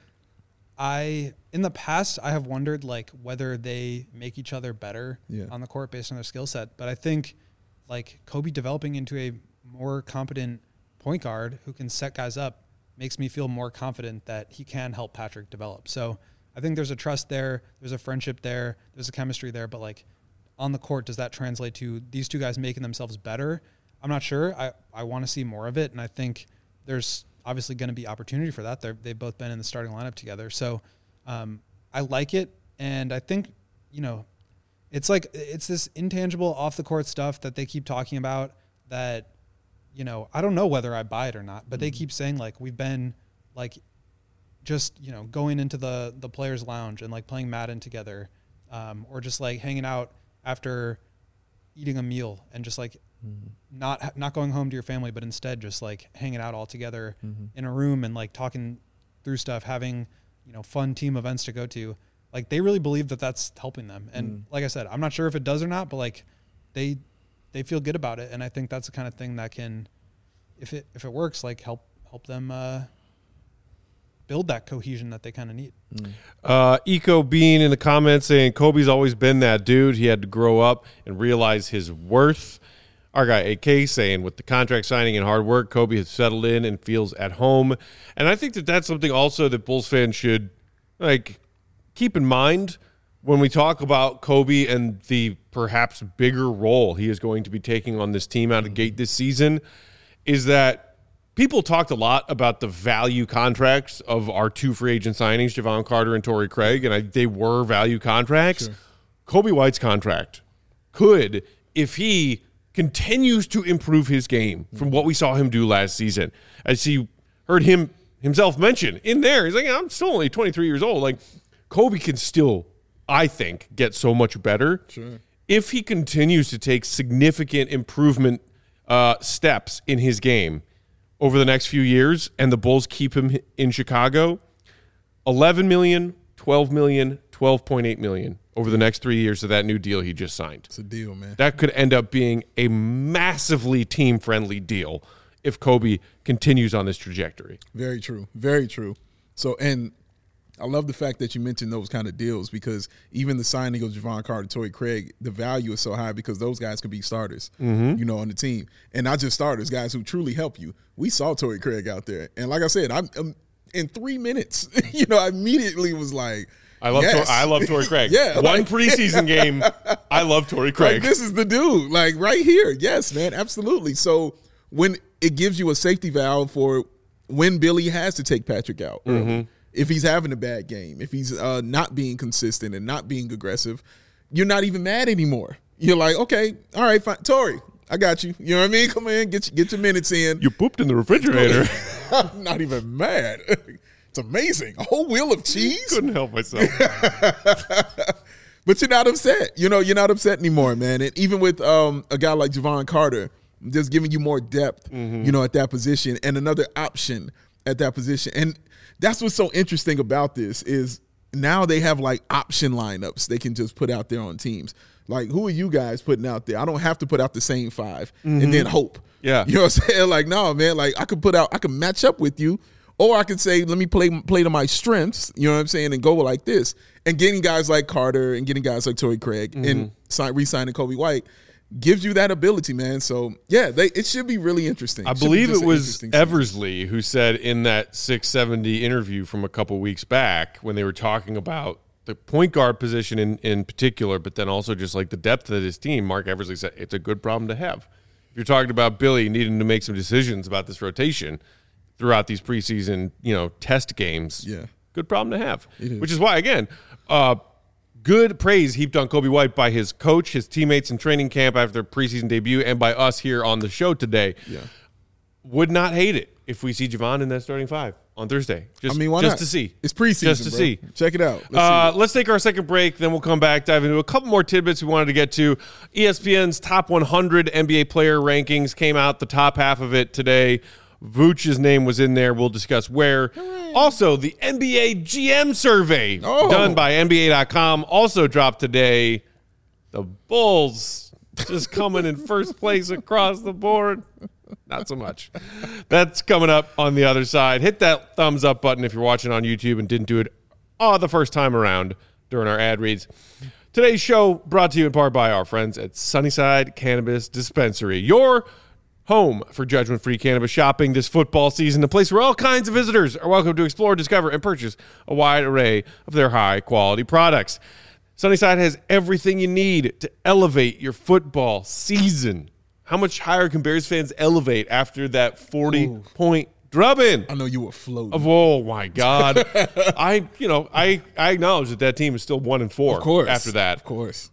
In the past, I have wondered, like, whether they make each other better on the court based on their skill set. But I think, like, Kobe developing into a more competent point guard who can set guys up makes me feel more confident that he can help Patrick develop. So I think there's a trust there. There's a friendship there. There's a chemistry there. But, like, on the court, does that translate to these two guys making themselves better? I'm not sure. I want to see more of it. And I think there's obviously going to be opportunity for that. They've both been in the starting lineup together. So I like it. And I think, it's like, it's this intangible off the court stuff that they keep talking about that, I don't know whether I buy it or not, but they keep saying, like, we've been, like, just, going into the players' lounge and, like, playing Madden together, or just, like, hanging out after eating a meal and just, like, not going home to your family, but instead just, like, hanging out all together in a room and, like, talking through stuff, having, fun team events to go to. Like, they really believe that that's helping them. And like I said, I'm not sure if it does or not, but, like, they feel good about it. And I think that's the kind of thing that can, if it works, like, help them build that cohesion that they kind of need. Eco Bean in the comments saying Kobe's always been that dude. He had to grow up and realize his worth. Our guy AK saying with the contract signing and hard work, Kobe has settled in and feels at home. And I think that that's something also that Bulls fans should, like, keep in mind when we talk about Kobe and the perhaps bigger role he is going to be taking on this team out of the gate this season, is that people talked a lot about the value contracts of our 2 free agent signings, Javon Carter and Torrey Craig, and they were value contracts. Sure. Kobe White's contract could, if he continues to improve his game from what we saw him do last season, as he heard himself mention in there, he's like, I'm still only 23 years old. Like, Kobe can still, I think, get so much better. Sure. If he continues to take significant improvement steps in his game over the next few years, and the Bulls keep him in Chicago, $11 million, $12 million, $12.8 million over the next 3 years of that new deal he just signed. It's a deal, man. That could end up being a massively team-friendly deal if Kobe continues on this trajectory. Very true. Very true. So, and I love the fact that you mentioned those kind of deals, because even the signing of Javon Carter, Torrey Craig, the value is so high because those guys could be starters, on the team. And not just starters, guys who truly help you. We saw Torrey Craig out there. And like I said, I'm in 3 minutes, I immediately was like, I love Torrey Craig. Yeah, One preseason game, I love Torrey Craig. Like, this is the dude, like right here. Yes, man, absolutely. So when it gives you a safety valve for when Billy has to take Patrick out early, if he's having a bad game, if he's not being consistent and not being aggressive, you're not even mad anymore. You're like, okay, all right, fine. Torrey, I got you. You know what I mean? Come in, get your minutes in. You pooped in the refrigerator. I'm not even mad. It's amazing. A whole wheel of cheese. Couldn't help myself. But you're not upset. You're not upset anymore, man. And even with a guy like Javon Carter, just giving you more depth, at that position, and another option at that position. And that's what's so interesting about this is now they have like option lineups they can just put out there on teams. Like, who are you guys putting out there? I don't have to put out the same 5 and then hope. Yeah. You know what I'm saying? Like, no, man, like I could match up with you, or I could say, let me play to my strengths, you know what I'm saying, and go like this. And getting guys like Carter and getting guys like Torrey Craig and re-signing Kobe White gives you that ability, man. So, yeah, it should be really interesting. I believe it was Eversley who said in that 670 interview from a couple weeks back when they were talking about the point guard position in particular, but then also just like the depth of his team, Mark Eversley said it's a good problem to have. If you're talking about Billy needing to make some decisions about this rotation throughout these preseason, test games, good problem to have. Which is why, again, good praise heaped on Kobe White by his coach, his teammates in training camp after their preseason debut, and by us here on the show today. Yeah. Would not hate it if we see Javon in that starting 5 on Thursday. Why just not? to see. It's preseason, just to bro. see. Check it out. Let's take our second break, then we'll come back, dive into a couple more tidbits we wanted to get to. ESPN's top 100 NBA player rankings came out, the top half of it today. Vooch's name was in there. We'll discuss where. Also, the NBA GM survey done by NBA.com also dropped today. The Bulls just coming in first place across the board. Not so much. That's coming up on the other side. Hit that thumbs up button if you're watching on YouTube and didn't do it the first time around during our ad reads. Today's show brought to you in part by our friends at Sunnyside Cannabis Dispensary. Your home for judgment-free cannabis shopping this football season, a place where all kinds of visitors are welcome to explore, discover, and purchase a wide array of their high-quality products. Sunnyside has everything you need to elevate your football season. How much higher can Bears fans elevate after that 40-point drubbing? I know you were floating. Oh, my God. I acknowledge that team is still 1-4 of course, after that. Of course.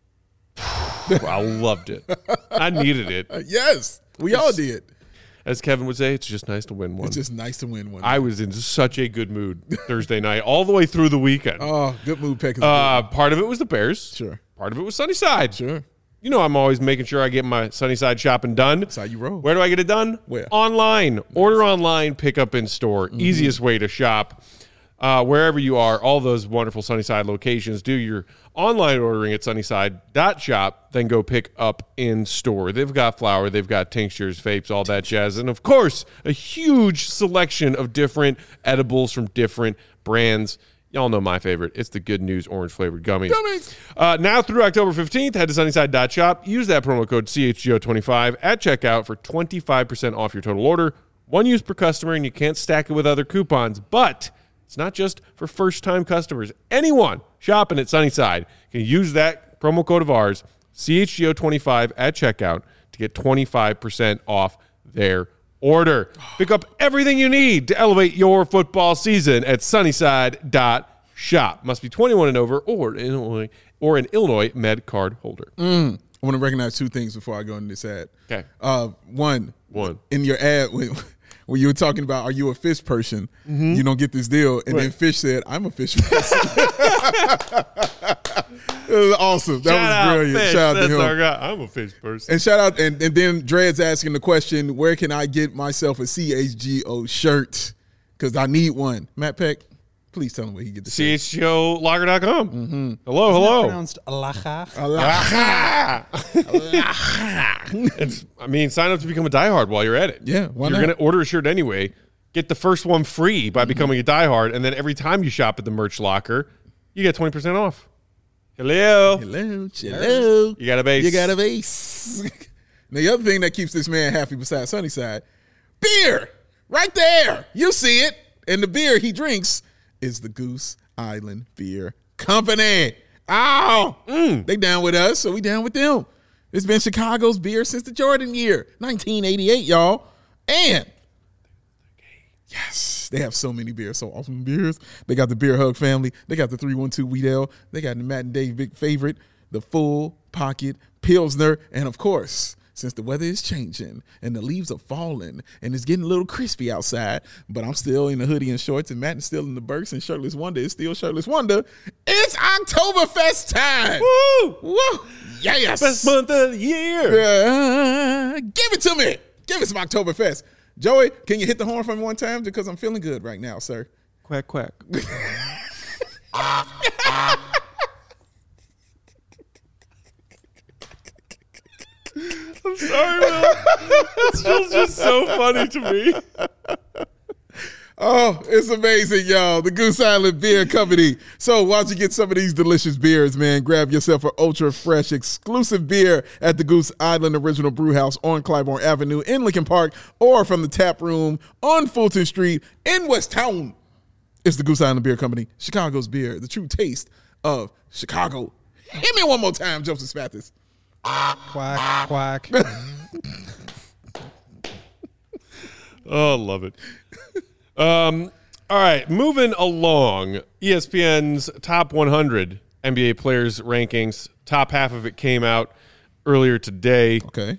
I loved it. I needed it. Yes. We all did. As Kevin would say, it's just nice to win one. It's just nice to win one. I was in such a good mood Thursday night, all the way through the weekend. Oh, good mood, Peck. Part of it was the Bears. Sure. Part of it was Sunnyside. Sure. I'm always making sure I get my Sunnyside shopping done. That's how you roll. Where do I get it done? Where? Online. Order online, pick up in store. Easiest way to shop. Wherever you are, all those wonderful Sunnyside locations, do your online ordering at sunnyside.shop, then go pick up in store. They've got flour, they've got tinctures, vapes, all that jazz, and of course, a huge selection of different edibles from different brands. Y'all know my favorite. It's the Good News orange-flavored gummies. Now through October 15th, head to sunnyside.shop. Use that promo code CHGO25 at checkout for 25% off your total order. One use per customer, and you can't stack it with other coupons, but it's not just for first-time customers. Anyone shopping at Sunnyside can use that promo code of ours, CHGO25, at checkout to get 25% off their order. Pick up everything you need to elevate your football season at Sunnyside.shop. Must be 21 and over or an Illinois Med card holder. I want to recognize two things before I go into this ad. Okay. One. One. In your ad, when you were talking about, are you a fish person? You don't get this deal. And then Fish said, I'm a fish person. It was awesome. That was brilliant. Fish. Shout out That's to him. our guy. I'm a fish person. And shout out, and then Dred's asking the question, where can I get myself a CHGO shirt? Because I need one. Matt Peck, please tell him where he get the shirt. CHGOlocker.com. Hello. Pronounced alaha. Sign up to become a diehard while you're at it. Yeah, why You're not? going to order a shirt anyway. Get the first one free by becoming a diehard, and then every time you shop at the merch locker, you get 20% off. Hello. Hello. You got a base. You got a base. Now, the other thing that keeps this man happy besides Sunnyside, beer. Right there. You see it. And the beer he drinks is the Goose Island Beer Company. They down with us, so we down with them. It's been Chicago's beer since the Jordan year, 1988, y'all. And yes, they have so many beers, so awesome beers. They got the Beer Hug family. They got the 312 Wheat Ale. They got the Matt and Dave big favorite, the Full Pocket Pilsner. And of course, since the weather is changing and the leaves are falling and it's getting a little crispy outside, but I'm still in the hoodie and shorts and Matt is still in the Birks and Shirtless Wonder is still Shirtless Wonder, it's Oktoberfest time. Woo! Woo! Yes. Best month of the year. Give it to me. Give us some Oktoberfest. Joey, can you hit the horn for me one time? Because I'm feeling good right now, sir. Quack, quack. I'm sorry, Will. It's just so funny to me. Oh, it's amazing, y'all. The Goose Island Beer Company. So why don't you get some of these delicious beers, man? Grab yourself an ultra-fresh, exclusive beer at the Goose Island Original Brew House on Clybourne Avenue in Lincoln Park or from the tap room on Fulton Street in West Town. It's the Goose Island Beer Company, Chicago's beer, the true taste of Chicago. Hit me one more time, Joseph Spathis. Quack, quack. Oh, love it. All right, moving along. ESPN's top 100 NBA players rankings. Top half of it came out earlier today. Okay.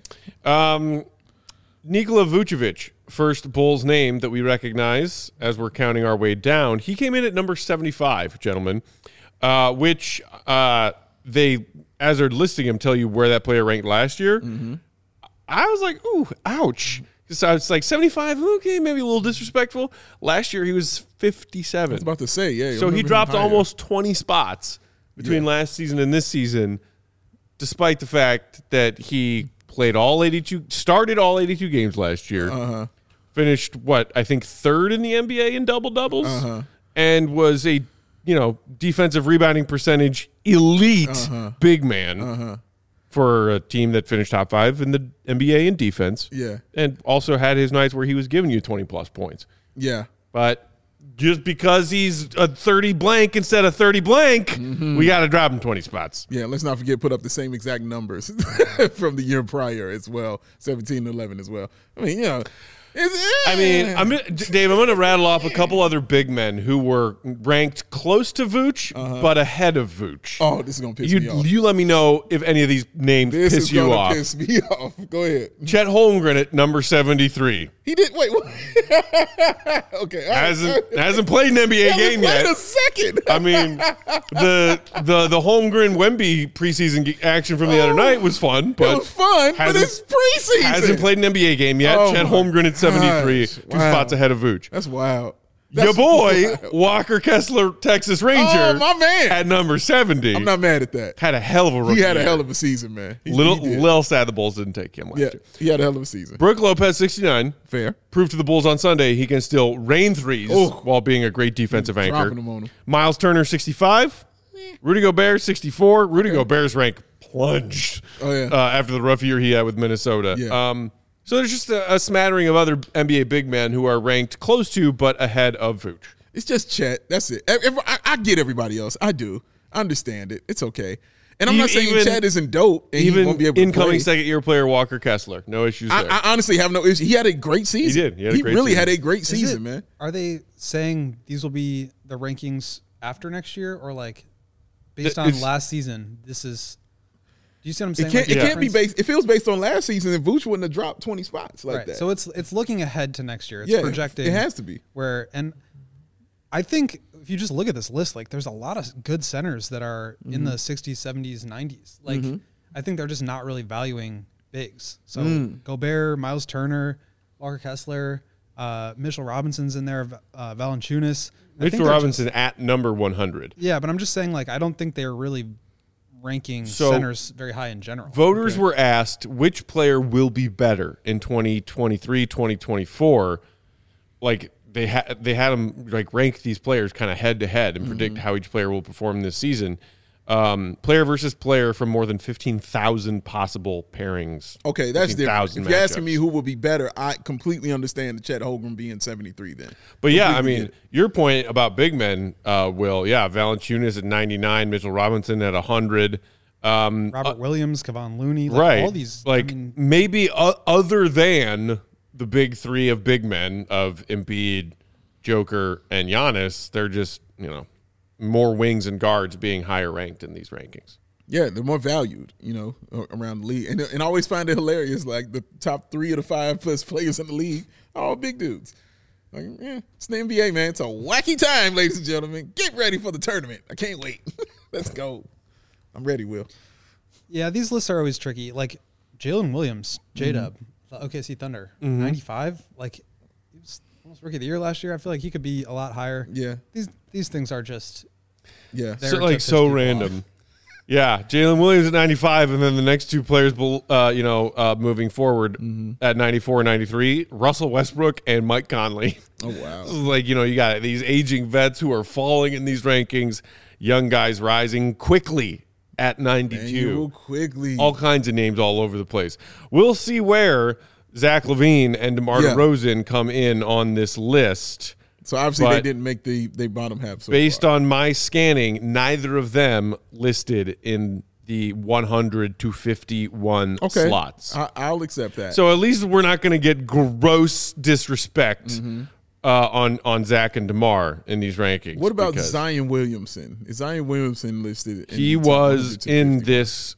Nikola Vucevic, first Bulls name that we recognize as we're counting our way down. He came in at number 75, gentlemen, which they, as they're listing him, tell you where that player ranked last year. Mm-hmm. I was like, ooh, ouch. So it's like 75, okay, maybe a little disrespectful. Last year he was 57. I was about to say, yeah. So he dropped almost 20 spots between last season and this season, despite the fact that he played started all 82 games last year, finished, I think third in the NBA in double-doubles, and was a, defensive rebounding percentage elite big man. For a team that finished top 5 in the NBA in defense. Yeah. And also had his nights where he was giving you 20-plus points. Yeah. But just because he's a 30 blank instead of 30 blank, we got to drop him 20 spots. Yeah, let's not forget put up the same exact numbers from the year prior as well, 17 and 11 as well. I mean, Dave, I'm going to rattle off a couple other big men who were ranked close to Vooch, but ahead of Vooch. Oh, this is going to piss me off. You let me know if any of these names piss you off. This is going to piss me off. Go ahead. Chet Holmgren at number 73. He did. Wait. Okay. Hasn't played an NBA game yet. Wait a second. I mean, the Holmgren Wemby preseason action from the other night was fun. But it was fun, but it's preseason. Hasn't played an NBA game yet. Chet Holmgren at 73, two spots ahead of Vooch. That's wild. Your boy, Walker Kessler, Texas Ranger, my man, at number 70. I'm not mad at that. Had a hell of a rookie He had a year. hell of a season, man. Little sad the Bulls didn't take him last year. He had a hell of a season. Brook Lopez, 69. Fair. Proved to the Bulls on Sunday he can still rain threes while being a great defensive anchor. Dropping them on him. Miles Turner, 65. Rudy Gobert, 64. Rudy Gobert's rank plunged after the rough year he had with Minnesota. Yeah. So there's just a smattering of other NBA big men who are ranked close to but ahead of Vooch. It's just Chet. That's it. I get everybody else. I do. I understand it. It's okay. And I'm not saying Even- Chet isn't dope and he Even won't be able to incoming play. second-year player Walker Kessler, no issues there. I honestly have no issue. He had a great season. He did. He had a great really season. had a great Is season, it- man. Are they saying these will be the rankings after next year, or like based on It's- last season? This is. Do you see what I'm It saying? can't. Like, It the can't be difference? based. If it was based on last season, then Vooch wouldn't have dropped 20 spots like Right. that. So it's looking ahead to next year. It's yeah, projecting. It has to be. Where and I think if you just look at this list, like there's a lot of good centers that are in the 60s, 70s, 90s. Like I think they're just not really valuing bigs. So Gobert, Miles Turner, Walker Kessler, Mitchell Robinson's in there, Valanciunas. I think Mitchell they're Robinson at number 100. yeah, but I'm just saying, like, I don't think they're really ranking So, centers very high in general. Voters were asked which player will be better in 2023, 2024. Like they had them like rank these players kind of head to head and predict how each player will perform this season. Player versus player from more than 15,000 possible pairings. Okay, that's different. 15,000 If you're asking matchups. me who will be better, I completely understand the Chet Holmgren being 73 then. But yeah, I Completely mean, your point about big men, Will, yeah, Valanciunas at 99, Mitchell Robinson at 100. Robert Williams, Kevon Looney, like Right. all these. Like I mean, maybe other than the big three of big men of Embiid, Joker, and Giannis, they're just, more wings and guards being higher ranked in these rankings. Yeah, they're more valued, around the league. And I always find it hilarious, like the top 3 of the 5 best players in the league are all big dudes. Like, it's the NBA, man. It's a wacky time, ladies and gentlemen. Get ready for the tournament. I can't wait. Let's go. I'm ready, Will. yeah, these lists are always tricky. Like Jalen Williams, J-Dub, the OKC Thunder, 95. Like he was almost rookie of the year last year. I feel like he could be a lot higher. Yeah. These things are just Yeah. There So to like piss so people random. Yeah, Jalen Williams at 95, and then the next two players, moving forward at 94 and 93, Russell Westbrook and Mike Conley. Oh, This wow. is like, you got these aging vets who are falling in these rankings, young guys rising quickly at 92. Daniel Quigley. All kinds of names all over the place. We'll see where Zach LaVine and DeMar Yeah. DeRozan come in on this list. So obviously they But didn't make the bottom half so Based far. on my scanning, neither of them listed in the 100 to 51 slots. I'll accept that. So at least we're not going to get gross disrespect on Zach and DeMar in these rankings. what about because Zion Williamson? Is Zion Williamson listed? He the top was 100 to in 50? this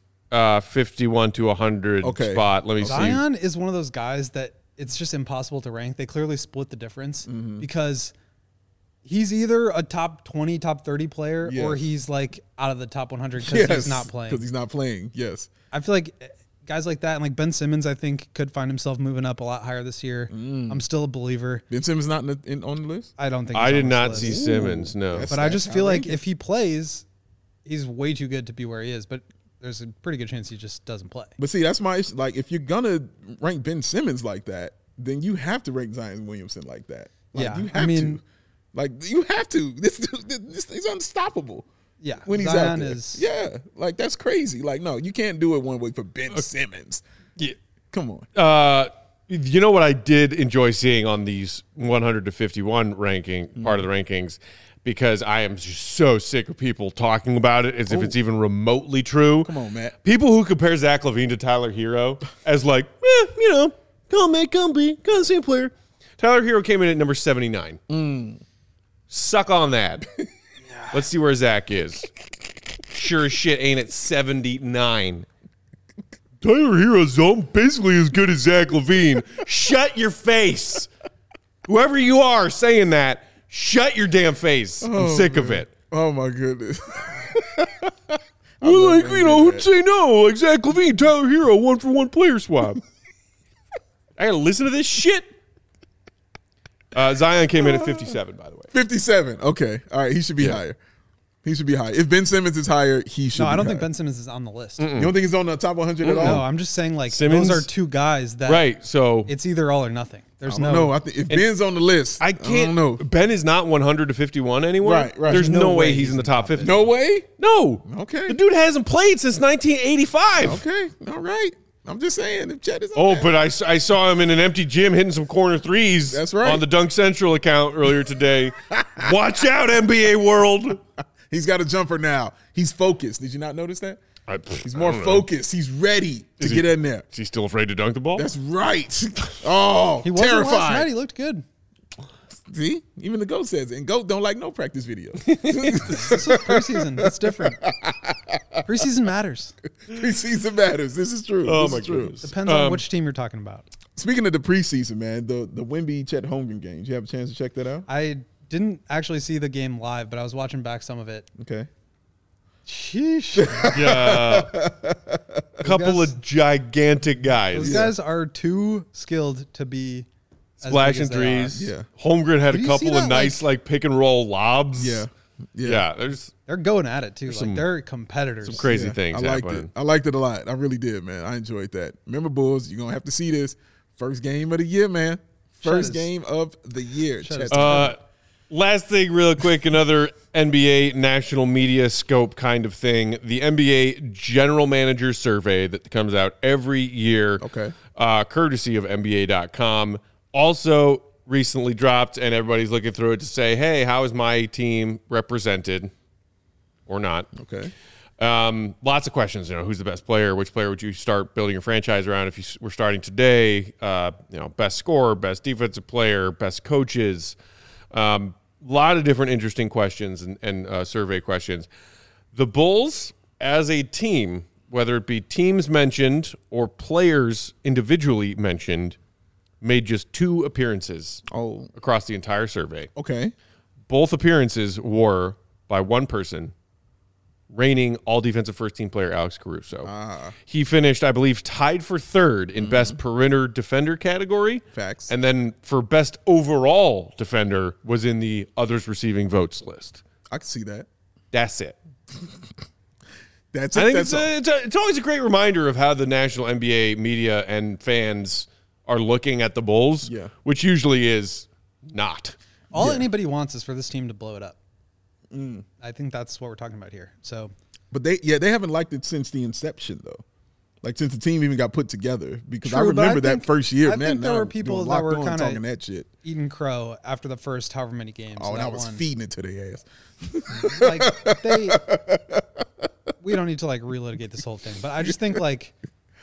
51 to 100 Okay. spot. Let me see. Zion is one of those guys that it's just impossible to rank. They clearly split the difference because he's either a top 20, top 30 player, or Yes. he's like out of the top 100 because Yes, he's not playing. Because he's not playing. Yes. I feel like guys like that, and like Ben Simmons, I think could find himself moving up a lot higher this year. I'm still a believer. Ben Simmons not on the list. I don't think I he's did on not this see list. Simmons, no. That's- But I just feel like outrageous. if he plays, he's way too good to be where he is. But there's a pretty good chance he just doesn't play. But see, that's my issue. Like, if you're gonna rank Ben Simmons like that, then you have to rank Zion Williamson like that. Like, Yeah, you have I mean- to. Like, you have to. This thing's unstoppable. Yeah, When he's Zion out there. is. Yeah, like that's crazy. Like, no, you can't do it one way for Ben Simmons. Yeah. Come on. You know what I did enjoy seeing on these 100 to 51 ranking part of the rankings, because I am just so sick of people talking about it as if it's even remotely true. Come on, Matt. People who compare Zach LaVine to Tyler Hero as like, come on, man, come be the same player. Tyler Hero came in at number 79. Suck on that. Let's see where Zach is. Sure as shit ain't at 79. Tyler Hero's basically as good as Zach LaVine. Shut your face. Whoever you are saying that, shut your damn face. I'm sick of it. Oh my goodness. Well, who'd say no? Like Zach LaVine, Tyler Hero, 1-for-1 player swap. I gotta listen to this shit. Zion came in at 57, by the way. 57. Okay. All right. He should be higher. He should be higher. If Ben Simmons is higher, he should No, be I don't higher. think Ben Simmons is on the list. You don't think he's on the top 100 at all? No, I'm just saying like Simmons? those are two guys that Right, so it's either all or nothing. There's I no. don't know. I think if Ben's on the list, I can't. don't know. Ben is not 100 to 51 anymore. Right. There's no way he's in the top 50. No way? No. Okay. The dude hasn't played since 1985. Okay. All right. I'm just saying, if Chet is on Oh, there. but I saw him in an empty gym hitting some corner threes. That's right. On the Dunk Central account earlier today. Watch out, NBA world. He's got a jumper now. He's focused. Did you not notice that? He's more focused. He's ready to get in there. Is he still afraid to dunk the ball? That's right. Oh, He wasn't last terrified. night. He looked good. See, even the GOAT says it. And GOAT don't like no practice videos. This was preseason. It's different. Preseason matters. Preseason matters. This is true. Oh, This my is true. goodness. Depends on which team you're talking about. Speaking of the preseason, man, the Wemby Chet Holmgren games. You have a chance to check that out? I didn't actually see the game live, but I was watching back some of it. Okay. Sheesh. Yeah. A couple guys- of gigantic guys. Those guys are too skilled to be as Splashing big as they are. threes. Yeah. Holmgren had Did a you see couple of that, nice like pick and roll lobs. Yeah. Yeah. There's They're going at it too. some- Like they're competitors. some crazy Yeah, things I liked happening. it. I liked it a lot. I really did, man. I enjoyed that. Remember, Bulls, you're going to have to see this. First game of the year, man. First is- game of the year. Chet is Chet- Last thing, real quick, another NBA national media scope kind of thing. The NBA General Manager Survey that comes out every year, Okay. Courtesy of NBA.com, also recently dropped, and everybody's looking through it to say, hey, how is my team represented or not? Okay. Lots of questions. Who's the best player? Which player would you start building your franchise around if you were starting today? Best scorer, best defensive player, best coaches. Lot of different interesting questions and survey questions. The Bulls, as a team, whether it be teams mentioned or players individually mentioned, made just 2 appearances across the entire survey. Okay. Both appearances were by one person, reigning all defensive first team player Alex Caruso. He finished, I believe, tied for 3rd in best perimeter defender category. Facts. And then for best overall defender was in the others receiving votes list. I can see that. That's it. That's I it. think That's all. it's always a great reminder of how the national NBA media and fans are looking at the Bulls, Yeah. which usually is not. All anybody wants is for this team to blow it up. I think that's what we're talking about here. So But they haven't liked it since the inception, though. Like since the team even got put together, because I True, but I remember that think- first year, I man. think there now were I'm people doing that Locked were On kinda- talking that shit. eating crow after the first however many games. Oh, and I that was won. feeding it to their ass. Like we don't need to like relitigate this whole thing, but I just think like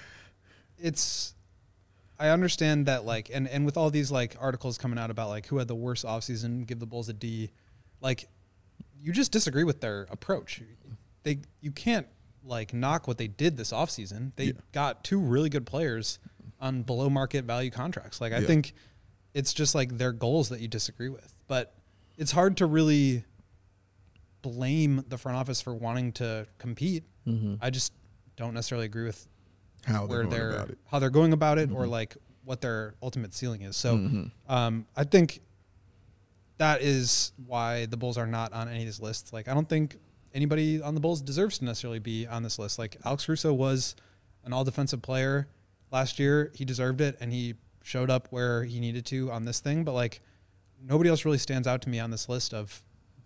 I understand that like and with all these like articles coming out about like who had the worst offseason, give the Bulls a D, like you just disagree with their approach. You can't like knock what they did this offseason. They got 2 really good players on below market value contracts. Like I think it's just like their goals that you disagree with. But it's hard to really blame the front office for wanting to compete. I just don't necessarily agree with How where they're going about it. how they're going about it or like what their ultimate ceiling is. So I think that is why the Bulls are not on any of these lists. Like I don't think anybody on the Bulls deserves to necessarily be on this list. Like Alex Caruso was an all defensive player last year. He deserved it and he showed up where he needed to on this thing. But like nobody else really stands out to me on this list of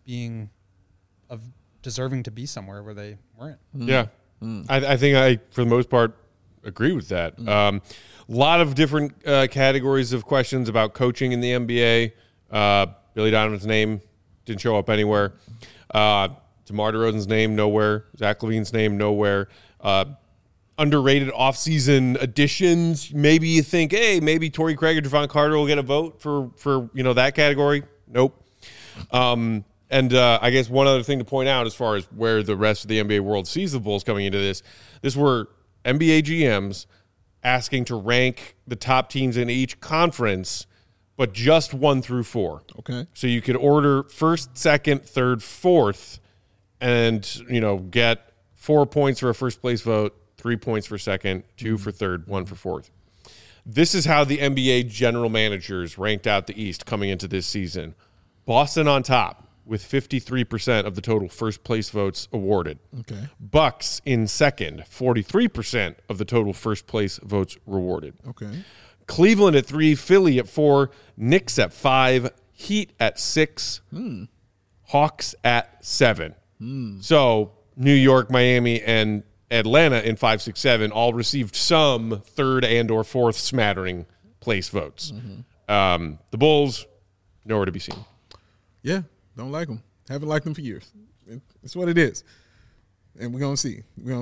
deserving to be somewhere where they weren't. Yeah. I think I, for the most part, agree with that. A lot of different categories of questions about coaching in the NBA. Billy Donovan's name didn't show up anywhere. DeMar DeRozan's name, nowhere. Zach LaVine's name, nowhere. Underrated offseason additions. Maybe you think, hey, maybe Torrey Craig or Javon Carter will get a vote for that category. Nope. And I guess one other thing to point out as far as where the rest of the NBA world sees the Bulls coming into this were NBA GMs asking to rank the top teams in each conference, but just 1 through 4. Okay. So you could order first, second, third, fourth, and get 4 points for a first place vote, 3 points for second, 2 for third, 1 for fourth. This is how the NBA general managers ranked out the East coming into this season. Boston on top with 53% of the total first place votes awarded. Okay. Bucks in second, 43% of the total first place votes rewarded. Okay. Cleveland at 3, Philly at 4, Knicks at 5, Heat at 6, Hawks at 7. So New York, Miami, and Atlanta in 5, 6, 7 all received some third and or fourth smattering place votes. The Bulls, nowhere to be seen. Yeah. Don't like them. Haven't liked them for years. It's what it is. And we're going to see.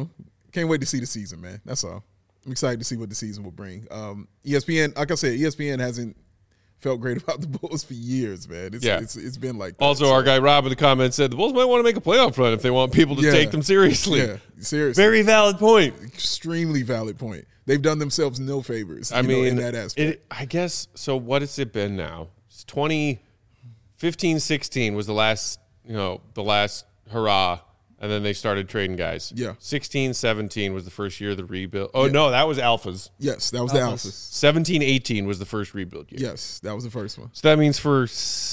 Can't wait to see the season, man. That's all. I'm excited to see what the season will bring. ESPN, like I said, ESPN hasn't felt great about the Bulls for years, man. It's been like that. Also, our guy Rob in the comments said the Bulls might want to make a playoff run if they want people to take them seriously. Yeah, seriously. Very valid point. Extremely valid point. They've done themselves no favors. In that aspect. I guess. So what has it been now? It's 2015-16 was the last hurrah, and then they started trading guys. Yeah. 16-17 was the first year of the rebuild. Oh no, that was Alphas. Yes, that was the Alphas. 17-18 was the first rebuild year. Yes, that was the first one. So that means for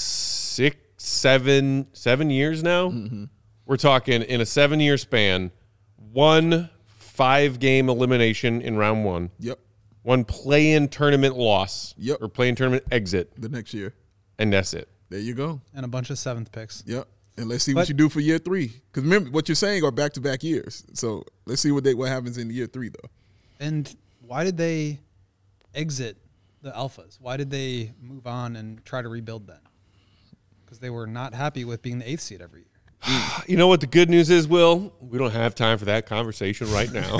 7 years now, we're talking in a 7-year span, 1 5-game elimination in round 1. Yep. 1 play-in tournament loss. Yep. Or play-in tournament exit. The next year. And that's it. There you go. And a bunch of 7th picks. Yep. And let's see what you do for year 3. Because remember, what you're saying are back-to-back years. So let's see what happens in year 3, though. And why did they exit the Alphas? Why did they move on and try to rebuild then? Because they were not happy with being the 8th seed every year. You know what the good news is, Will? We don't have time for that conversation right now.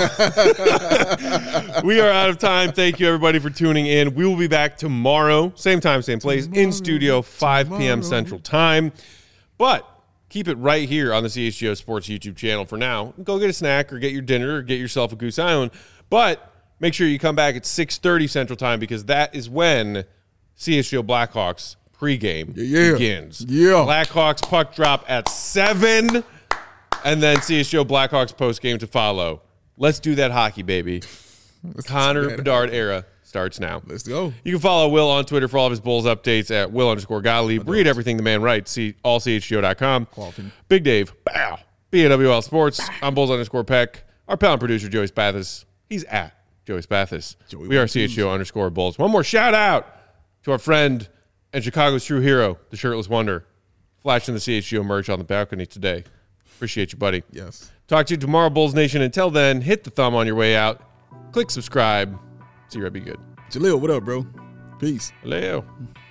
We are out of time. Thank you, everybody, for tuning in. We will be back tomorrow, same time, same place, in studio, 5 p.m. Central Time. But keep it right here on the CHGO Sports YouTube channel for now. Go get a snack or get your dinner or get yourself a Goose Island. But make sure you come back at 6:30 Central Time because that is when CHGO Blackhawks pregame begins. Yeah. Blackhawks puck drop at 7, and then CHGO Blackhawks postgame to follow. Let's do that hockey, baby. Connor Bedard era starts now. Let's go. You can follow Will on Twitter for all of his Bulls updates at Will_Gottlieb. Read everything the man writes. See allchgo.com. Big Dave, bow. BAWL Sports. I'm Bulls_Peck. Our pal and producer, Joey Spathis. He's at Joey Spathis. We are CHGO_Bulls. One more shout out to our friend and Chicago's true hero, the Shirtless Wonder, flashing the CHGO merch on the balcony today. Appreciate you, buddy. Yes. Talk to you tomorrow, Bulls Nation. Until then, hit the thumb on your way out. Click subscribe. See you, be good. Jaleel, what up, bro? Peace. Hello.